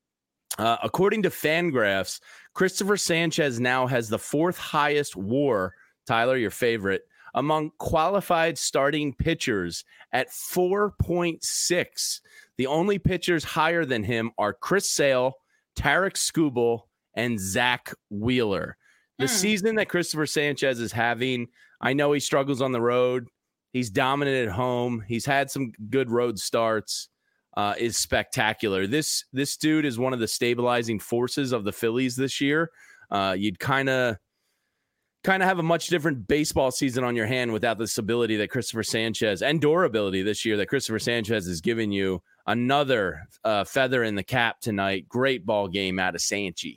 Uh, according to Fangraphs, Christopher Sanchez now has the fourth highest WAR, Tyler, your favorite, among qualified starting pitchers at four point six. The only pitchers higher than him are Chris Sale, Tarek Skubal, and Zach Wheeler. The mm. season that Christopher Sanchez is having, I know he struggles on the road. He's dominant at home. He's had some good road starts. Uh, is spectacular. This this dude is one of the stabilizing forces of the Phillies this year. Uh, you'd kind of kind of have a much different baseball season on your hand without the stability that Christopher Sanchez and durability this year that Christopher Sanchez has given you. Another uh, feather in the cap tonight. Great ball game out of Sanchi.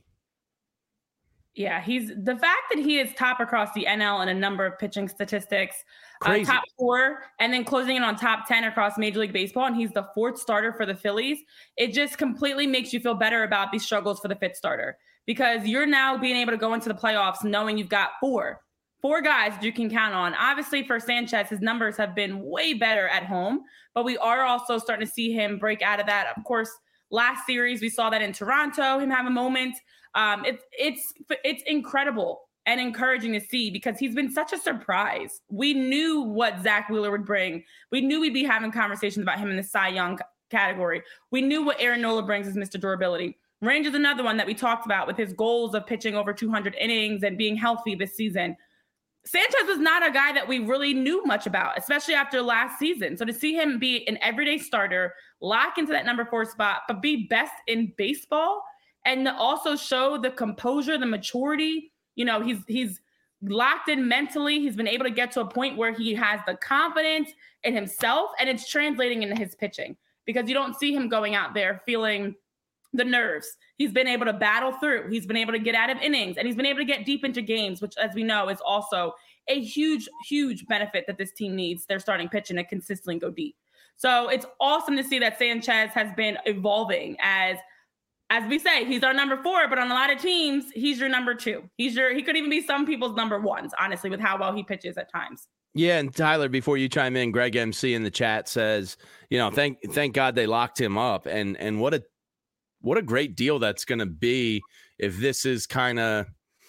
Yeah, he's the fact that he is top across the N L in a number of pitching statistics, uh, top four, and then closing in on top ten across Major League Baseball, and he's the fourth starter for the Phillies. It just completely makes you feel better about these struggles for the fifth starter because you're now being able to go into the playoffs knowing you've got four, four guys you can count on. Obviously, for Sanchez, his numbers have been way better at home, but we are also starting to see him break out of that. Of course, last series we saw that in Toronto, him have a moment. Um, it's it's it's incredible and encouraging to see because he's been such a surprise. We knew what Zach Wheeler would bring. We knew we'd be having conversations about him in the Cy Young category. We knew what Aaron Nola brings as Mister Durability. Range is another one that we talked about with his goals of pitching over two hundred innings and being healthy this season. Sanchez is not a guy that we really knew much about, especially after last season. So to see him be an everyday starter, lock into that number four spot, but be best in baseball, and also show the composure, the maturity. You know, he's he's locked in mentally. He's been able to get to a point where he has the confidence in himself, and it's translating into his pitching because you don't see him going out there feeling the nerves. He's been able to battle through. He's been able to get out of innings, and he's been able to get deep into games, which, as we know, is also a huge, huge benefit that this team needs. They're starting pitching to consistently go deep. So it's awesome to see that Sanchez has been evolving as – As we say, he's our number four, but on a lot of teams, he's your number two. He's your, he could even be some people's number ones, honestly, with how well he pitches at times. Yeah, and Tyler, before you chime in, Greg M C in the chat says, you know, thank thank God they locked him up, and and what a what a great deal that's going to be if this is kind of,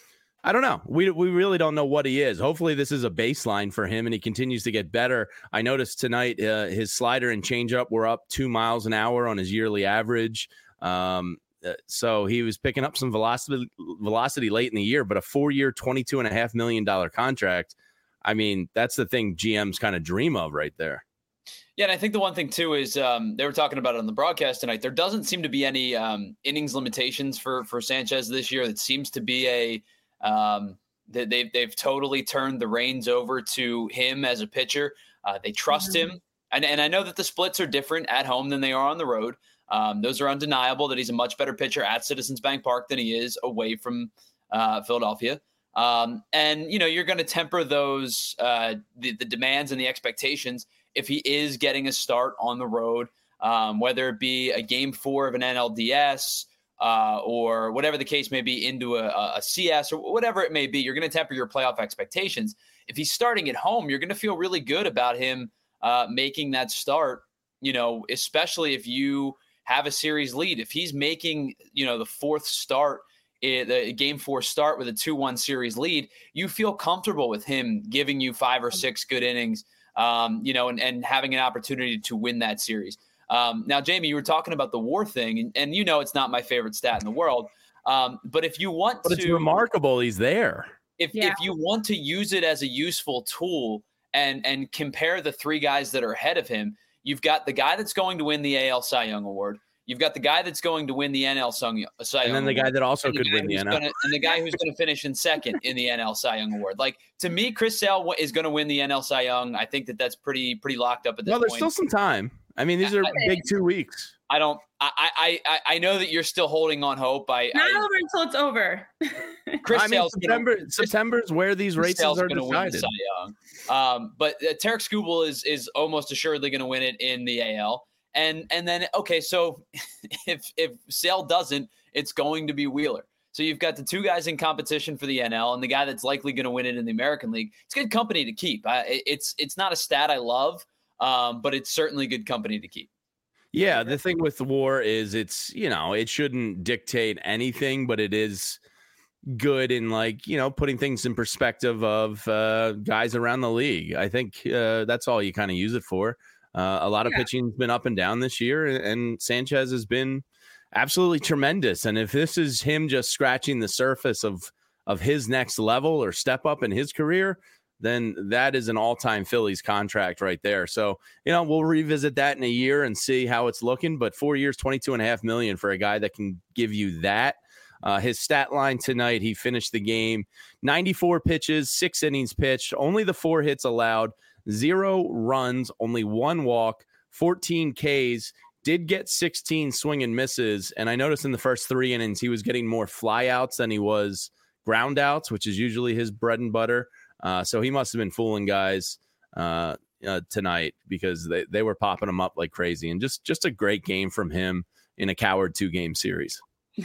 I don't know, we we really don't know what he is. Hopefully, this is a baseline for him, and he continues to get better. I noticed tonight uh, his slider and changeup were up two miles an hour on his yearly average. Um, So he was picking up some velocity velocity late in the year, but a four-year, twenty-two point five million dollars contract, I mean, that's the thing G Ms kind of dream of right there. Yeah, and I think the one thing, too, is um, they were talking about it on the broadcast tonight. There doesn't seem to be any um, innings limitations for for Sanchez this year. It seems to be a um, – they've, they've totally turned the reins over to him as a pitcher. Uh, they trust mm-hmm. him. And, and I know that the splits are different at home than they are on the road. Um, those are undeniable that he's a much better pitcher at Citizens Bank Park than he is away from uh, Philadelphia. Um, and, you know, you're going to temper those, uh, the, the demands and the expectations if he is getting a start on the road, um, whether it be a game four of an N L D S uh, or whatever the case may be into a, a C S or whatever it may be. You're going to temper your playoff expectations. If he's starting at home, you're going to feel really good about him uh, making that start, you know, especially if you have a series lead. If he's making, you know, the fourth start, the game four start with a two one series lead, you feel comfortable with him giving you five or six good innings, um, you know, and, and having an opportunity to win that series. Um, now, Jamie, you were talking about the WAR thing, and, and you know it's not my favorite stat in the world. Um, but if you want but to... But it's remarkable he's there. If yeah. if you want to use it as a useful tool and and compare the three guys that are ahead of him, you've got the guy that's going to win the A L Cy Young Award. You've got the guy that's going to win the N L Cy Young Award. And then the guy that also could win the N L. Gonna, and the guy who's going to finish in second in the N L Cy Young Award. Like, to me, Chris Sale is going to win the N L Cy Young. I think that that's pretty pretty locked up at this well, point. Well, there's still some time. I mean, these are I, big two weeks. I don't I, – I I know that you're still holding on hope. I, Not I, over until it's over. Chris I mean, Sale's September, gonna, September's where these races Sale's are gonna decided. Win the Cy Young. Um, but uh, Tarek Skubal is is almost assuredly going to win it in the A L. And and then, okay, so if if Sale doesn't, it's going to be Wheeler. So you've got the two guys in competition for the N L and the guy that's likely going to win it in the American League. It's good company to keep. I, it's it's not a stat I love, um, but it's certainly good company to keep. Yeah, the thing with the war is it's, you know, it shouldn't dictate anything, but it is good in, like, you know, putting things in perspective of uh, guys around the league. I think uh, that's all you kind of use it for. Uh, a lot of yeah. pitching's been up and down this year, and Sanchez has been absolutely tremendous. And if this is him just scratching the surface of of his next level or step up in his career, then that is an all-time Phillies contract right there. So, you know, we'll revisit that in a year and see how it's looking. But four years, twenty-two and a half million for a guy that can give you that. Uh, his stat line tonight, he finished the game, ninety-four pitches, six innings pitched, only the four hits allowed, zero runs, only one walk, fourteen Ks, did get sixteen swing and misses. And I noticed in the first three innings, he was getting more flyouts than he was ground outs, which is usually his bread and butter. Uh, so he must have been fooling guys uh, uh, tonight, because they, they were popping him up like crazy. And just, just a great game from him in a coward two-game series.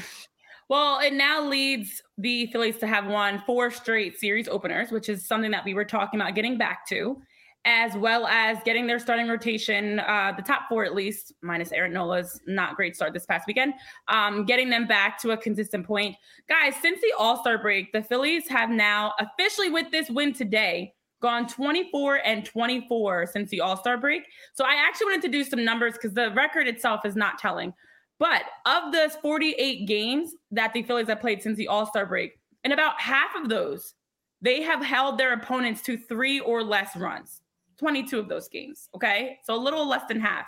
Well, it now leads the Phillies to have won four straight series openers, which is something that we were talking about getting back to, as well as getting their starting rotation, uh, the top four at least, minus Aaron Nola's not great start this past weekend, um, getting them back to a consistent point. Guys, since the All-Star break, the Phillies have now officially, with this win today, gone twenty-four and twenty-four since the All-Star break. So I actually wanted to do some numbers because the record itself is not telling. But of those forty-eight games that the Phillies have played since the All-Star break, in about half of those, they have held their opponents to three or less runs. twenty-two of those games, okay? So a little less than half.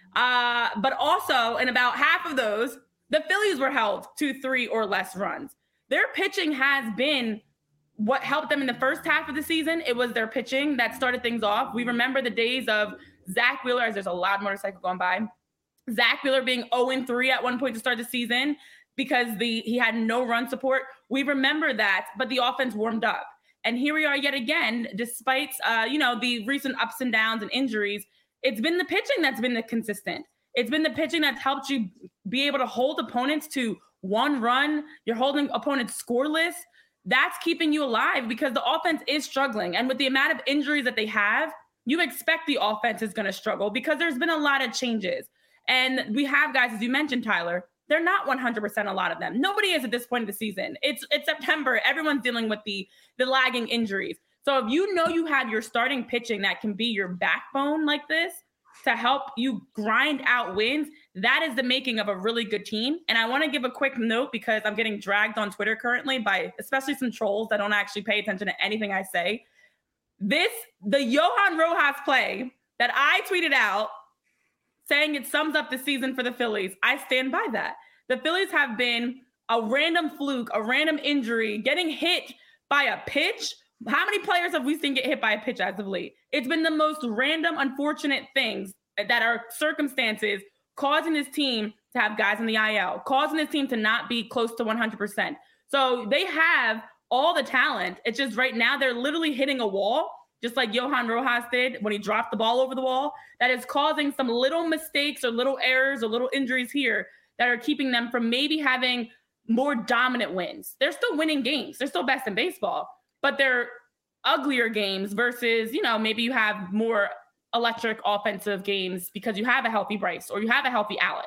Uh, but also, in about half of those, the Phillies were held to three or less runs. Their pitching has been what helped them in the first half of the season. It was their pitching that started things off. We remember the days of Zach Wheeler, as there's a loud motorcycle going by, Zach Wheeler being oh and three at one point to start the season because the he had no run support. We remember that, but the offense warmed up. And here we are yet again, despite, uh, you know, the recent ups and downs and injuries. It's been the pitching that's been the consistent. It's been the pitching that's helped you be able to hold opponents to one run. You're holding opponents scoreless. That's keeping you alive because the offense is struggling. And with the amount of injuries that they have, you expect the offense is going to struggle because there's been a lot of changes. And we have guys, as you mentioned, Tyler, they're not one hundred percent, a lot of them. Nobody is at this point of the season. It's it's September. Everyone's dealing with the, the lagging injuries. So if you know you have your starting pitching that can be your backbone like this to help you grind out wins, that is the making of a really good team. And I want to give a quick note because I'm getting dragged on Twitter currently by especially some trolls that don't actually pay attention to anything I say. This, the Johan Rojas play that I tweeted out saying it sums up the season for the Phillies, I stand by that. The Phillies have been a random fluke, a random injury, getting hit by a pitch. How many players have we seen get hit by a pitch as of late? It's been the most random, unfortunate things that are circumstances causing this team to have guys in the I L, causing this team to not be close to one hundred percent. So they have all the talent. It's just right now they're literally hitting a wall, just like Johan Rojas did when he dropped the ball over the wall, that is causing some little mistakes or little errors or little injuries here that are keeping them from maybe having more dominant wins. They're still winning games. They're still best in baseball, but they're uglier games versus, you know, maybe you have more electric offensive games because you have a healthy Bryce or you have a healthy Alec.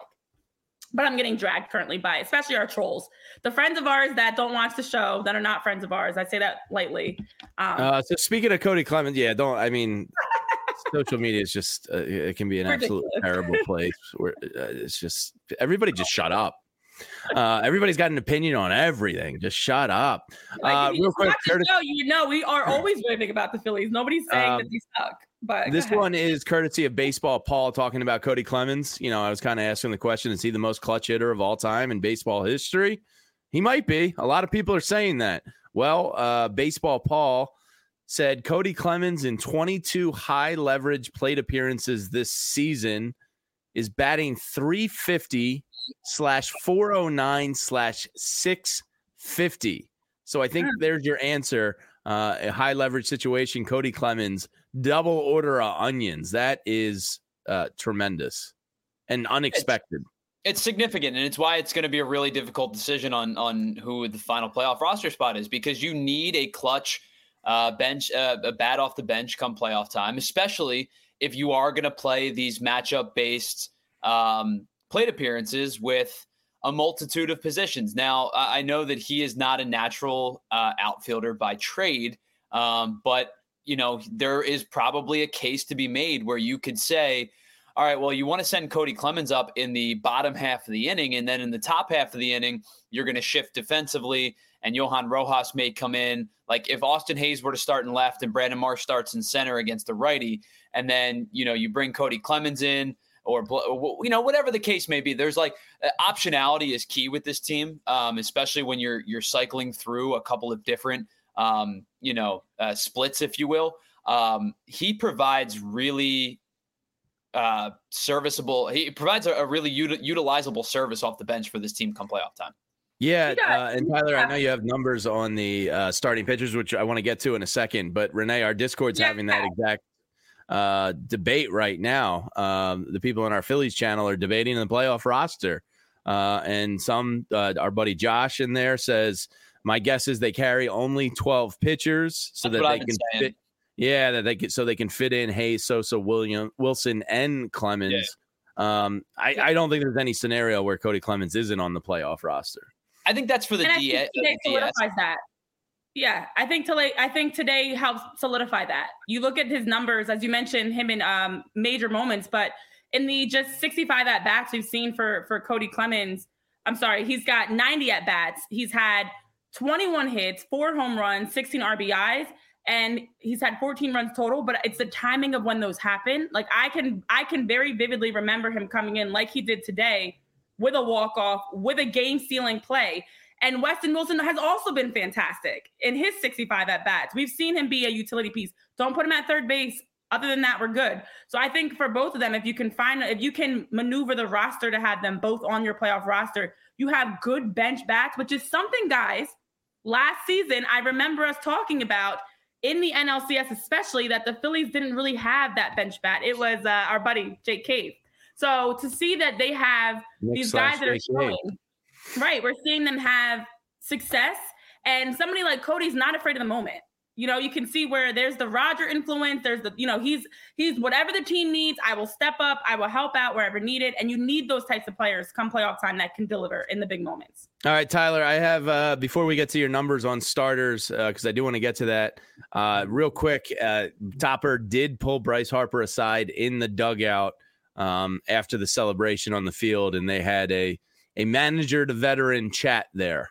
But I'm getting dragged currently by, especially our trolls, the friends of ours that don't watch the show, that are not friends of ours. I say that lightly. Um, uh, so speaking of Cody Clemens, yeah, don't, I mean, social media is just, uh, it can be an absolute terrible place where uh, it's just, everybody just shut up. Uh, everybody's got an opinion on everything. Just shut up. Like, uh, real quick, Curtis, know, you know, we are always raving about the Phillies. Nobody's saying um, that they suck. But this one is courtesy of Baseball Paul talking about Cody Clemens. You know, I was kind of asking the question, is he the most clutch hitter of all time in baseball history? He might be. A lot of people are saying that. Well, uh, Baseball Paul said Cody Clemens in twenty-two high leverage plate appearances this season is batting three fifty slash four oh nine slash six fifty. So I think there's your answer. Uh, a high leverage situation, Cody Clemens, double order of onions. That is uh, tremendous and unexpected. It's, it's significant, and it's why it's going to be a really difficult decision on on who the final playoff roster spot is, because you need a clutch uh, bench, uh, a bat off the bench come playoff time, especially if you are going to play these matchup based um, plate appearances with a multitude of positions. Now, I know that he is not a natural uh, outfielder by trade, um, but, you know, there is probably a case to be made where you could say, all right, well, you want to send Cody Clemens up in the bottom half of the inning, and then in the top half of the inning, you're going to shift defensively, and Johan Rojas may come in. Like if Austin Hayes were to start in left and Brandon Marsh starts in center against the righty, and then, you know, you bring Cody Clemens in, or, you know, whatever the case may be, there's like uh, optionality is key with this team, um, especially when you're you're cycling through a couple of different, um, you know, uh, splits, if you will. Um, he provides really uh, serviceable. He provides a, a really util- utilizable service off the bench for this team come playoff time. Yeah, uh, and Tyler, I know you have numbers on the uh, starting pitchers, which I want to get to in a second. But Renee, our Discord's yeah. having that exact uh, debate right now. Um, the people in our Phillies channel are debating the playoff roster. Uh, and some, uh, our buddy Josh in there says, my guess is they carry only twelve pitchers so That's that they I've can fit. fit. Yeah, that they can, so they can fit in Hayes, Sosa, William, Wilson, and Clemens. Yeah. Um, I, I don't think there's any scenario where Cody Clemens isn't on the playoff roster. I think that's for the and D S. I think today solidifies that. Yeah, I think today, I think today helps solidify that. You look at his numbers, as you mentioned, him in um, major moments, but in the just sixty-five at bats we've seen for for Cody Clemens, I'm sorry, he's got ninety at bats. He's had twenty-one hits, four home runs, sixteen R B Is, and he's had fourteen runs total. But it's the timing of when those happen. Like I can, I can very vividly remember him coming in like he did today with a walk-off, with a game-stealing play. And Weston Wilson has also been fantastic in his sixty-five at-bats. We've seen him be a utility piece. Don't put him at third base. Other than that, we're good. So I think for both of them, if you can find, if you can maneuver the roster to have them both on your playoff roster, you have good bench bats, which is something, guys, last season, I remember us talking about in the N L C S, especially, that the Phillies didn't really have that bench bat. It was uh, our buddy, Jake Cave. So to see that they have Nick these guys that are showing, right, we're seeing them have success, and somebody like Cody's not afraid of the moment. You know, you can see where there's the Roger influence. There's the, you know, he's, he's whatever the team needs, I will step up. I will help out wherever needed. And you need those types of players come playoff time that can deliver in the big moments. All right, Tyler, I have, uh, before we get to your numbers on starters, uh, cause I do want to get to that uh, real quick. Uh, Topper did pull Bryce Harper aside in the dugout um, after the celebration on the field. And they had a, a manager to veteran chat there.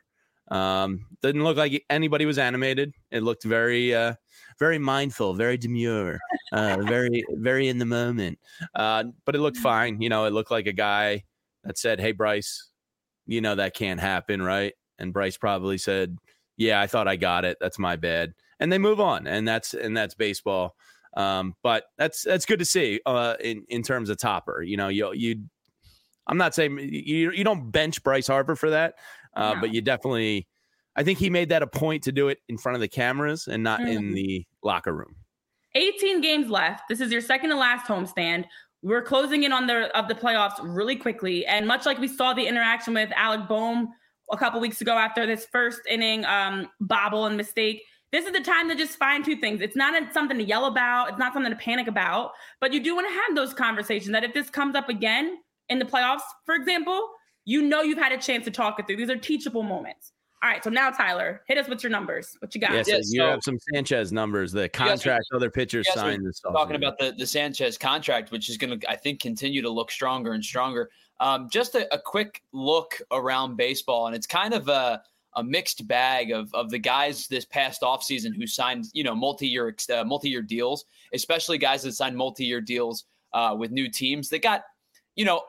Um, didn't look like anybody was animated. It looked very, uh, very mindful, very demure, uh, very, very in the moment. Uh, but it looked fine. You know, it looked like a guy that said, "Hey, Bryce, you know, that can't happen, right?" And Bryce probably said, "Yeah, I thought I got it. That's my bad." And they move on, and that's, and that's baseball. Um, but that's, that's good to see, uh, in, in terms of Topper. You know, you, you, I'm not saying you, you don't bench Bryce Harper for that. Uh, no. But you definitely, I think he made that a point to do it in front of the cameras and not mm-hmm. in the locker room. eighteen games left. This is your second to last homestand. We're closing in on the of the playoffs really quickly. And much like we saw the interaction with Alec Boehm a couple weeks ago after this first inning um, bobble and mistake, this is the time to just fine tune things. It's not something to yell about. It's not something to panic about. But you do want to have those conversations that if this comes up again in the playoffs, for example, you know you've had a chance to talk it through. These are teachable moments. All right, so now, Tyler, hit us with your numbers. What you got? Yes, yeah, so you so, have some Sanchez numbers, the contract other pitchers signed this offseason. Talking about the, the Sanchez contract, which is going to, I think, continue to look stronger and stronger. Um, just a, a quick look around baseball, and it's kind of a, a mixed bag of, of the guys this past offseason who signed, you know, multi-year, uh, multi-year deals, especially guys that signed multi-year deals uh, with new teams. They got, you know,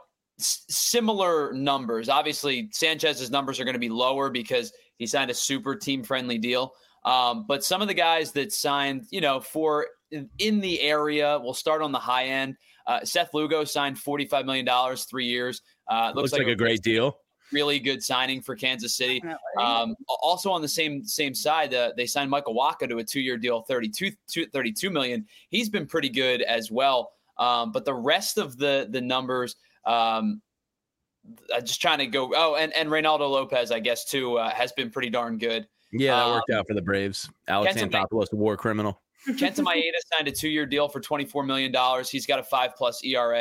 similar numbers. Obviously, Sanchez's numbers are going to be lower because he signed a super team-friendly deal. Um, but some of the guys that signed, you know, for in the area, we'll start on the high end. Uh, Seth Lugo signed forty-five million dollars, three years. Uh, looks, looks like, like a great deal. Really good signing for Kansas City. Um, also on the same same side, uh, they signed Michael Wacha to a two-year deal, thirty-two million dollars. He's been pretty good as well. Um, but the rest of the the numbers. Um, I'm just trying to go. Oh, and, and Reynaldo Lopez, I guess, too, uh, has been pretty darn good. Yeah, that um, worked out for the Braves. Alex Kenta Anthopoulos, a war criminal. Kenta Maeda signed a two-year deal for twenty-four million dollars. He's got a five-plus E R A.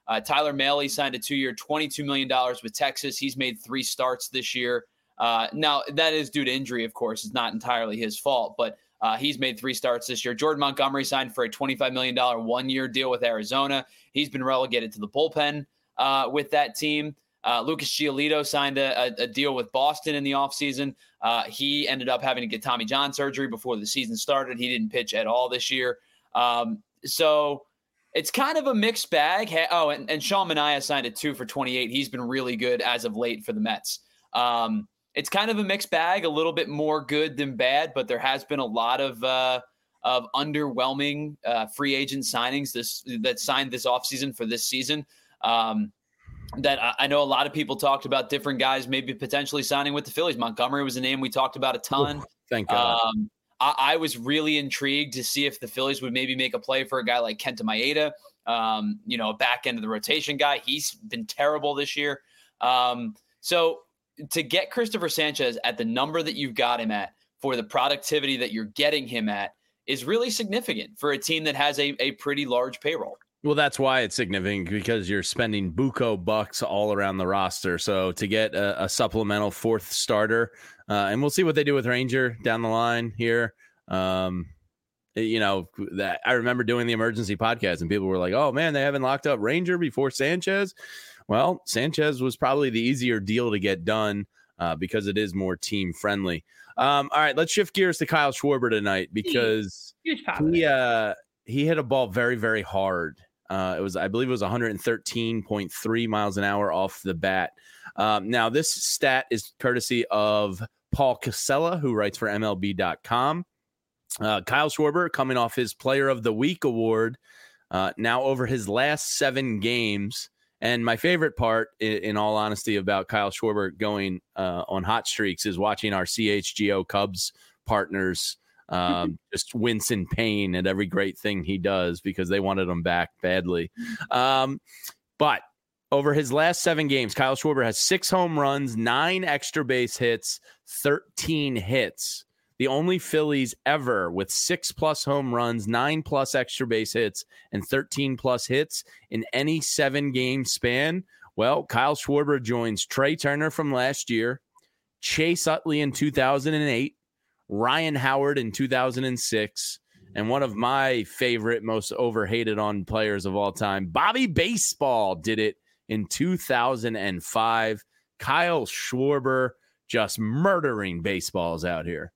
Uh, Tyler Mahle signed a two-year, twenty-two million dollars with Texas. He's made three starts this year. Uh, now, that is due to injury, of course. It's not entirely his fault, but uh, he's made three starts this year. Jordan Montgomery signed for a twenty-five million dollars one-year deal with Arizona. He's been relegated to the bullpen uh, with that team. Uh, Lucas Giolito signed a, a, a deal with Boston in the offseason. Uh, he ended up having to get Tommy John surgery before the season started. He didn't pitch at all this year. Um, so it's kind of a mixed bag. Oh, and, and Sean Manaea signed a two for twenty-eight. He's been really good as of late for the Mets. Um, it's kind of a mixed bag, a little bit more good than bad, but there has been a lot of uh, of underwhelming uh, free agent signings this that signed this offseason for this season. Um, that I know a lot of people talked about different guys maybe potentially signing with the Phillies. Montgomery was a name we talked about a ton. Ooh, thank God. Um, I, I was really intrigued to see if the Phillies would maybe make a play for a guy like Kenta Maeda, um, you know, a back end of the rotation guy. He's been terrible this year. Um, so to get Christopher Sanchez at the number that you've got him at for the productivity that you're getting him at is really significant for a team that has a, a pretty large payroll. Well, that's why it's significant, because you're spending buco bucks all around the roster. So to get a, a supplemental fourth starter, uh, and we'll see what they do with Ranger down the line here. Um, you know, that I remember doing the emergency podcast and people were like, oh man, they haven't locked up Ranger before Sanchez. Well, Sanchez was probably the easier deal to get done uh, because it is more team friendly. Um, all right, let's shift gears to Kyle Schwarber tonight, because huge he, uh, he hit a ball very, very hard. Uh, it was, I believe it was one thirteen point three miles an hour off the bat. Um, now, this stat is courtesy of Paul Casella, who writes for M L B dot com. Uh, Kyle Schwarber coming off his Player of the Week award uh, now over his last seven games. And my favorite part, in, in all honesty, about Kyle Schwarber going uh, on hot streaks is watching our C H G O Cubs partners um just wince in pain at every great thing he does, because they wanted him back badly. Um but over his last seven games, Kyle Schwarber has six home runs, nine extra base hits, thirteen hits. The only Phillies ever with six plus home runs, nine plus extra base hits, and thirteen plus hits in any seven game span. Well, Kyle Schwarber joins Trey Turner from last year, Chase Utley in two thousand eight, Ryan Howard in two thousand six, and one of my favorite, most overhated on players of all time, Bobby Baseball, did it in two thousand five. Kyle Schwarber just murdering baseballs out here.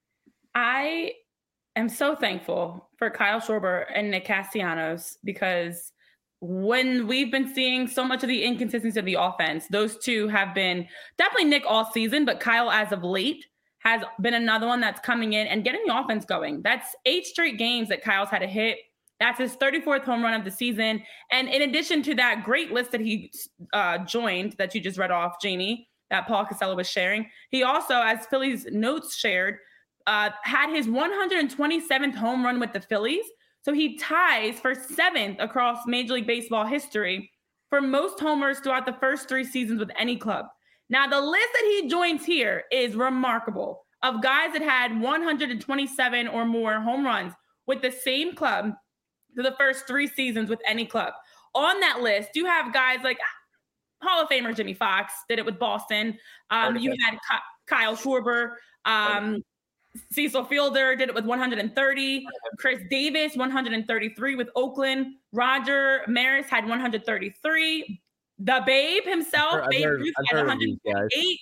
I am so thankful for Kyle Schwarber and Nick Castellanos, because when we've been seeing so much of the inconsistency of the offense, those two have been definitely Nick all season, but Kyle as of late has been another one that's coming in and getting the offense going. That's eight straight games that Kyle's had a hit. That's his thirty-fourth home run of the season. And in addition to that great list that he uh, joined, that you just read off, Jamie, that Paul Casella was sharing, he also, as Phillies Notes shared, uh, had his one hundred twenty-seventh home run with the Phillies. So he ties for seventh across Major League Baseball history for most homers throughout the first three seasons with any club. Now, the list that he joins here is remarkable, of guys that had one hundred twenty-seven or more home runs with the same club for the first three seasons with any club. On that list, you have guys like Hall of Famer Jimmy Fox, did it with Boston. Um, you had Kyle Schwarber. Um, Cecil Fielder did it with one hundred thirty. Chris Davis, one hundred thirty-three with Oakland. Roger Maris had one hundred thirty-three. The Babe himself, I've Babe heard, Ruth, I've had heard one hundred forty-eight.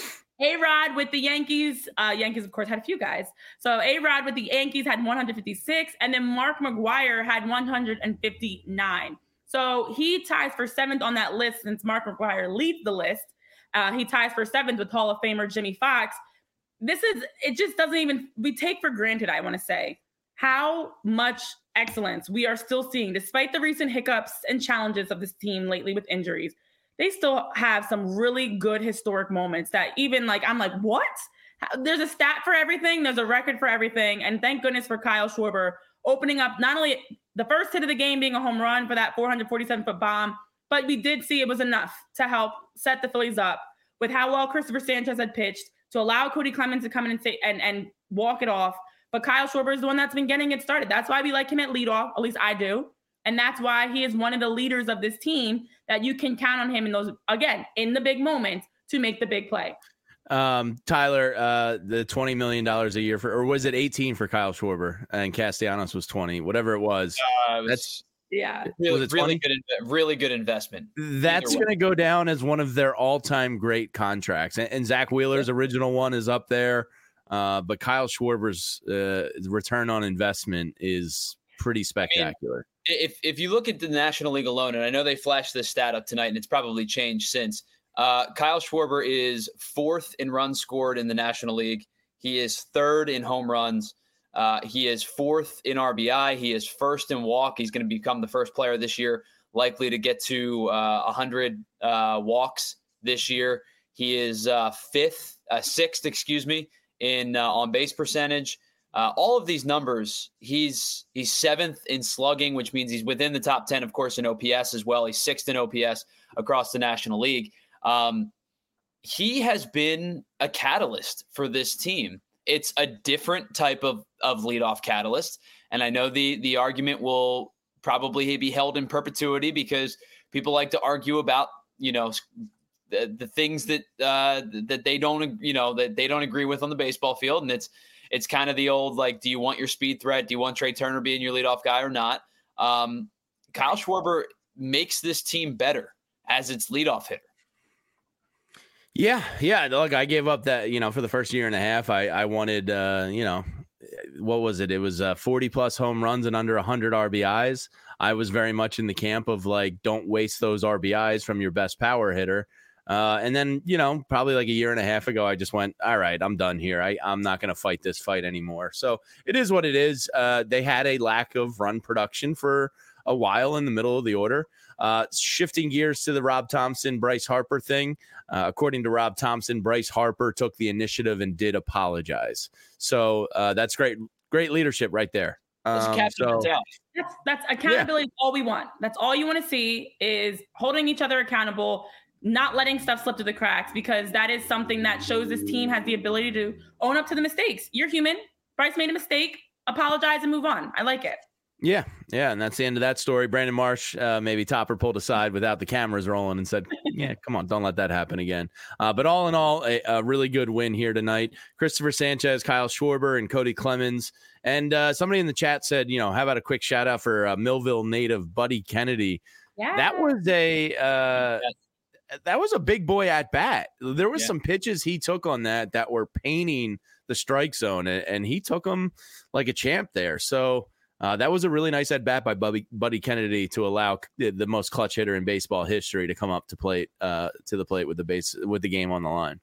A-Rod with the Yankees. Uh, Yankees, of course, had a few guys. So A-Rod with the Yankees had one hundred fifty-six. And then Mark McGwire had one hundred fifty-nine. So he ties for seventh on that list since Mark McGwire leads the list. Uh, he ties for seventh with Hall of Famer Jimmy Fox. This is, it just doesn't even, we take for granted, I want to say, how much excellence we are still seeing, despite the recent hiccups and challenges of this team lately with injuries. They still have some really good historic moments that even like, I'm like, what? There's a stat for everything. There's a record for everything. And thank goodness for Kyle Schwarber opening up not only the first hit of the game being a home run for that four hundred forty-seven foot bomb, but we did see it was enough to help set the Phillies up with how well Christopher Sanchez had pitched to allow Cody Clemens to come in and say, and, and walk it off. But Kyle Schwarber is the one that's been getting it started. That's why we like him at leadoff. At least I do. And that's why he is one of the leaders of this team, that you can count on him in those, again, in the big moments to make the big play. Um, Tyler, uh, the twenty million dollars a year for, or was it eighteen for Kyle Schwarber and Castellanos was twenty, whatever it was. Uh, it was that's yeah, really, really good, really good investment. That's going to go down as one of their all-time great contracts. And, and Zach Wheeler's yeah. original one is up there. Uh, but Kyle Schwarber's uh, return on investment is pretty spectacular. I mean, if if you look at the National League alone, and I know they flashed this stat up tonight, and it's probably changed since, uh, Kyle Schwarber is fourth in runs scored in the National League. He is third in home runs. Uh, he is fourth in R B I. He is first in walk. He's going to become the first player this year likely to get to uh, one hundred uh, walks this year. He is uh, fifth, uh, sixth, excuse me, in uh, on base percentage. Uh, all of these numbers, he's he's seventh in slugging, which means he's within the top ten, of course, in O P S as well. He's sixth in O P S across the National League. Um, he has been a catalyst for this team. It's a different type of, of leadoff catalyst. And I know the the argument will probably be held in perpetuity because people like to argue about, you know, the, the things that uh, that they don't, you know, that they don't agree with on the baseball field. And it's it's kind of the old, like, do you want your speed threat? Do you want Trey Turner being your leadoff guy or not? Um, Kyle Schwarber makes this team better as its leadoff hitter. Yeah, yeah. Look, I gave up that, you know, for the first year and a half, I, I wanted, uh, you know, what was it? It was uh, forty plus home runs and under one hundred R B Is. I was very much in the camp of, like, don't waste those R B Is from your best power hitter. Uh, and then, you know, probably like a year and a half ago, I just went, all right, I'm done here. I, I'm not going to fight this fight anymore. So it is what it is. Uh, they had a lack of run production for a while in the middle of the order. Uh, shifting gears to the Rob Thompson, Bryce Harper thing. Uh, according to Rob Thompson, Bryce Harper took the initiative and did apologize. So uh, that's great. Great leadership right there. Um, so, that's, that's accountability. Yeah. All we want. That's all you want to see is holding each other accountable, not letting stuff slip through the cracks, because that is something that shows this team has the ability to own up to the mistakes. You're human. Bryce made a mistake. Apologize and move on. I like it. Yeah, yeah, and that's the end of that story. Brandon Marsh, uh, maybe Topper pulled aside without the cameras rolling and said, yeah, come on, don't let that happen again. Uh, but all in all, a, a really good win here tonight. Christopher Sanchez, Kyle Schwarber, and Cody Clemens. And uh, somebody in the chat said, you know, how about a quick shout out for uh, Millville native Buddy Kennedy? Yeah. That was a uh, that was a big boy at bat. There was yeah. some pitches he took on that that were painting the strike zone, and, and he took them like a champ there. So Uh, that was a really nice at bat by Buddy, Buddy Kennedy to allow the, the most clutch hitter in baseball history to come up to plate uh, to the plate with the base with the game on the line.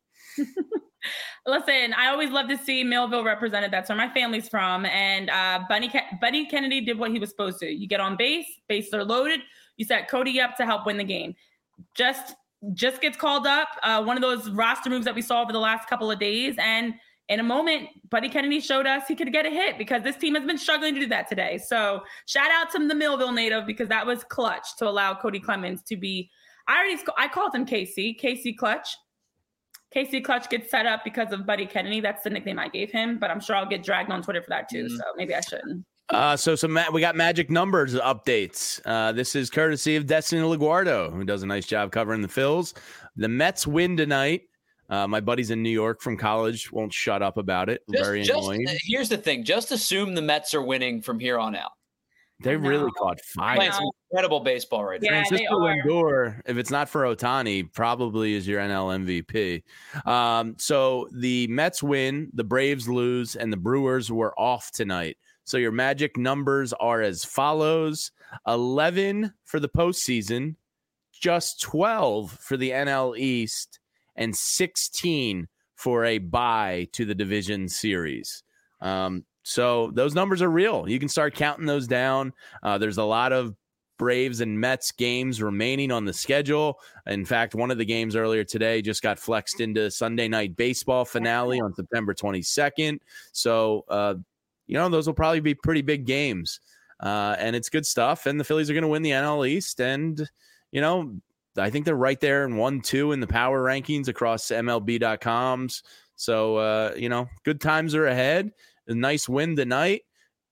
Listen, I always love to see Millville represented. That's where my family's from, and uh, Buddy Ke- Buddy Kennedy did what he was supposed to. You get on base, bases are loaded. You set Cody up to help win the game. Just just gets called up. Uh, one of those roster moves that we saw over the last couple of days, and in a moment, Buddy Kennedy showed us he could get a hit because this team has been struggling to do that today. So shout out to the Millville native because that was clutch to allow Cody Clemens to be, I already, I called him K C, K C Clutch. K C Clutch gets set up because of Buddy Kennedy. That's the nickname I gave him, but I'm sure I'll get dragged on Twitter for that too. Mm-hmm. So maybe I shouldn't. Uh, so some ma- we got magic numbers updates. Uh, this is courtesy of Destiny LaGuardo, who does a nice job covering the Phils. The Mets win tonight. Uh, my buddies in New York from college won't shut up about it. Just, Very just, annoying. Here's the thing. Just assume the Mets are winning from here on out. They really caught fire. Playing some incredible baseball right now. Yeah, Francisco Lindor, if it's not for Ohtani, probably is your N L M V P. Um, so the Mets win, the Braves lose, and the Brewers were off tonight. So your magic numbers are as follows. eleven for the postseason, just twelve for the N L East, and sixteen for a bye to the division series. Um, so those numbers are real. You can start counting those down. Uh, there's a lot of Braves and Mets games remaining on the schedule. In fact, one of the games earlier today just got flexed into Sunday Night Baseball finale on September twenty-second. So, uh, you know, those will probably be pretty big games. Uh, and it's good stuff. And the Phillies are going to win the N L East. And, you know, I think they're right there in one, two in the power rankings across M L B dot com's. So, uh, you know, good times are ahead. A nice win tonight.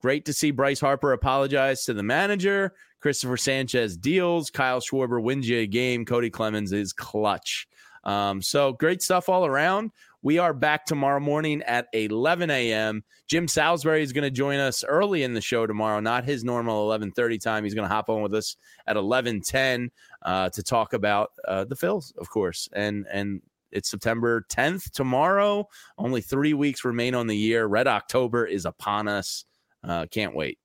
great to see Bryce Harper apologize to the manager. Christopher Sanchez deals. Kyle Schwarber wins you a game. Cody Clemens is clutch. Um, so great stuff all around. We are back tomorrow morning at eleven a.m. Jim Salisbury is going to join us early in the show tomorrow, not his normal eleven thirty time. He's going to hop on with us at eleven ten uh, to talk about uh, the Phils, of course. And and it's September tenth tomorrow. Only three weeks remain on the year. Red October is upon us. Uh, can't wait.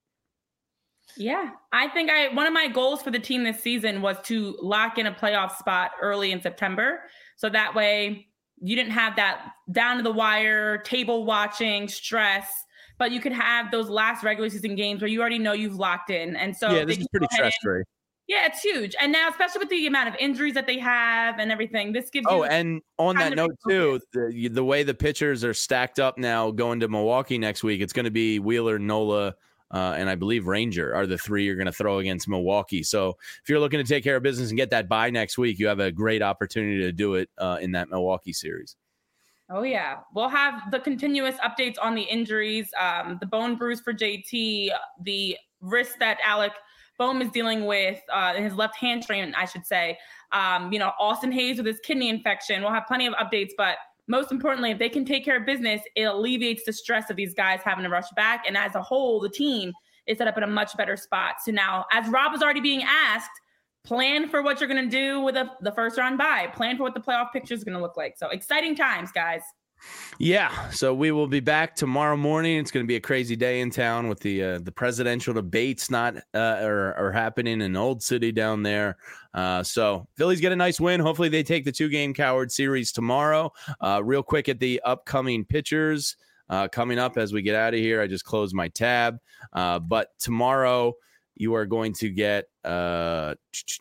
Yeah, I think I one of my goals for the team this season was to lock in a playoff spot early in September. So that way you didn't have that down to the wire, table watching stress, but you could have those last regular season games where you already know you've locked in. And so yeah, this is pretty stress-free. Yeah, it's huge. And now, especially with the amount of injuries that they have and everything, this gives you. Oh, and on that note, too, the, the way the pitchers are stacked up now going to Milwaukee next week, it's going to be Wheeler, Nola, uh, and I believe Ranger are the three you're going to throw against Milwaukee. So if you're looking to take care of business and get that bye next week, you have a great opportunity to do it uh, in that Milwaukee series. Oh, yeah. We'll have the continuous updates on the injuries, um, the bone bruise for J T, the wrist that Alec Boehm is dealing with, uh, his left hamstring, I should say. Um, you know, Austin Hayes with his kidney infection. We'll have plenty of updates, but most importantly, if they can take care of business, it alleviates the stress of these guys having to rush back. And as a whole, the team is set up in a much better spot. So now, as Rob was already being asked, plan for what you're going to do with a, the first round bye. Plan for what the playoff picture is going to look like. So exciting times, guys. Yeah, so we will be back tomorrow morning. It's going to be a crazy day in town with the uh, the presidential debates not uh, are, are happening in Old City down there. Uh, so Phillies get a nice win. Hopefully they take the two-game Coward series tomorrow. Uh, real quick at the upcoming pitchers uh, coming up as we get out of here. I just closed my tab. Uh, but tomorrow you are going to get, uh,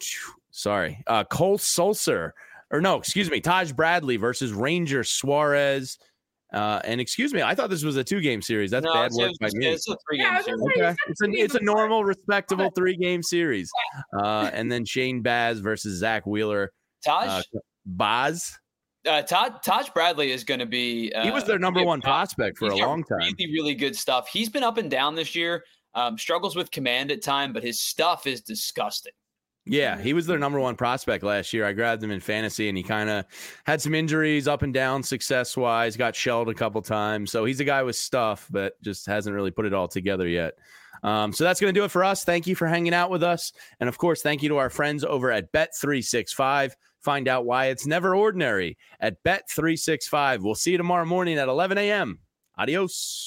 sorry, uh, Cole Sulser. Or no, excuse me, Taj Bradley versus Ranger Suarez. Uh, and excuse me, I thought this was a two-game series. That's no, bad work by me. It's a three-game yeah, series. Okay. It's, a, it's a normal, respectable three-game series. Uh, and then Shane Baz versus Zach Wheeler. Taj? Uh, Baz? Uh, Taj, Taj Bradley is going to be uh, – He was their number one prospect for a long time. Really, really good stuff. He's been up and down this year, um, struggles with command at time, but his stuff is disgusting. Yeah, he was their number one prospect last year. I grabbed him in fantasy, and he kind of had some injuries up and down success-wise, got shelled a couple times. So he's a guy with stuff, but just hasn't really put it all together yet. Um, so that's going to do it for us. Thank you for hanging out with us. And, of course, thank you to our friends over at Bet three sixty-five. Find out why it's never ordinary at Bet three sixty-five. We'll see you tomorrow morning at eleven a.m. Adios.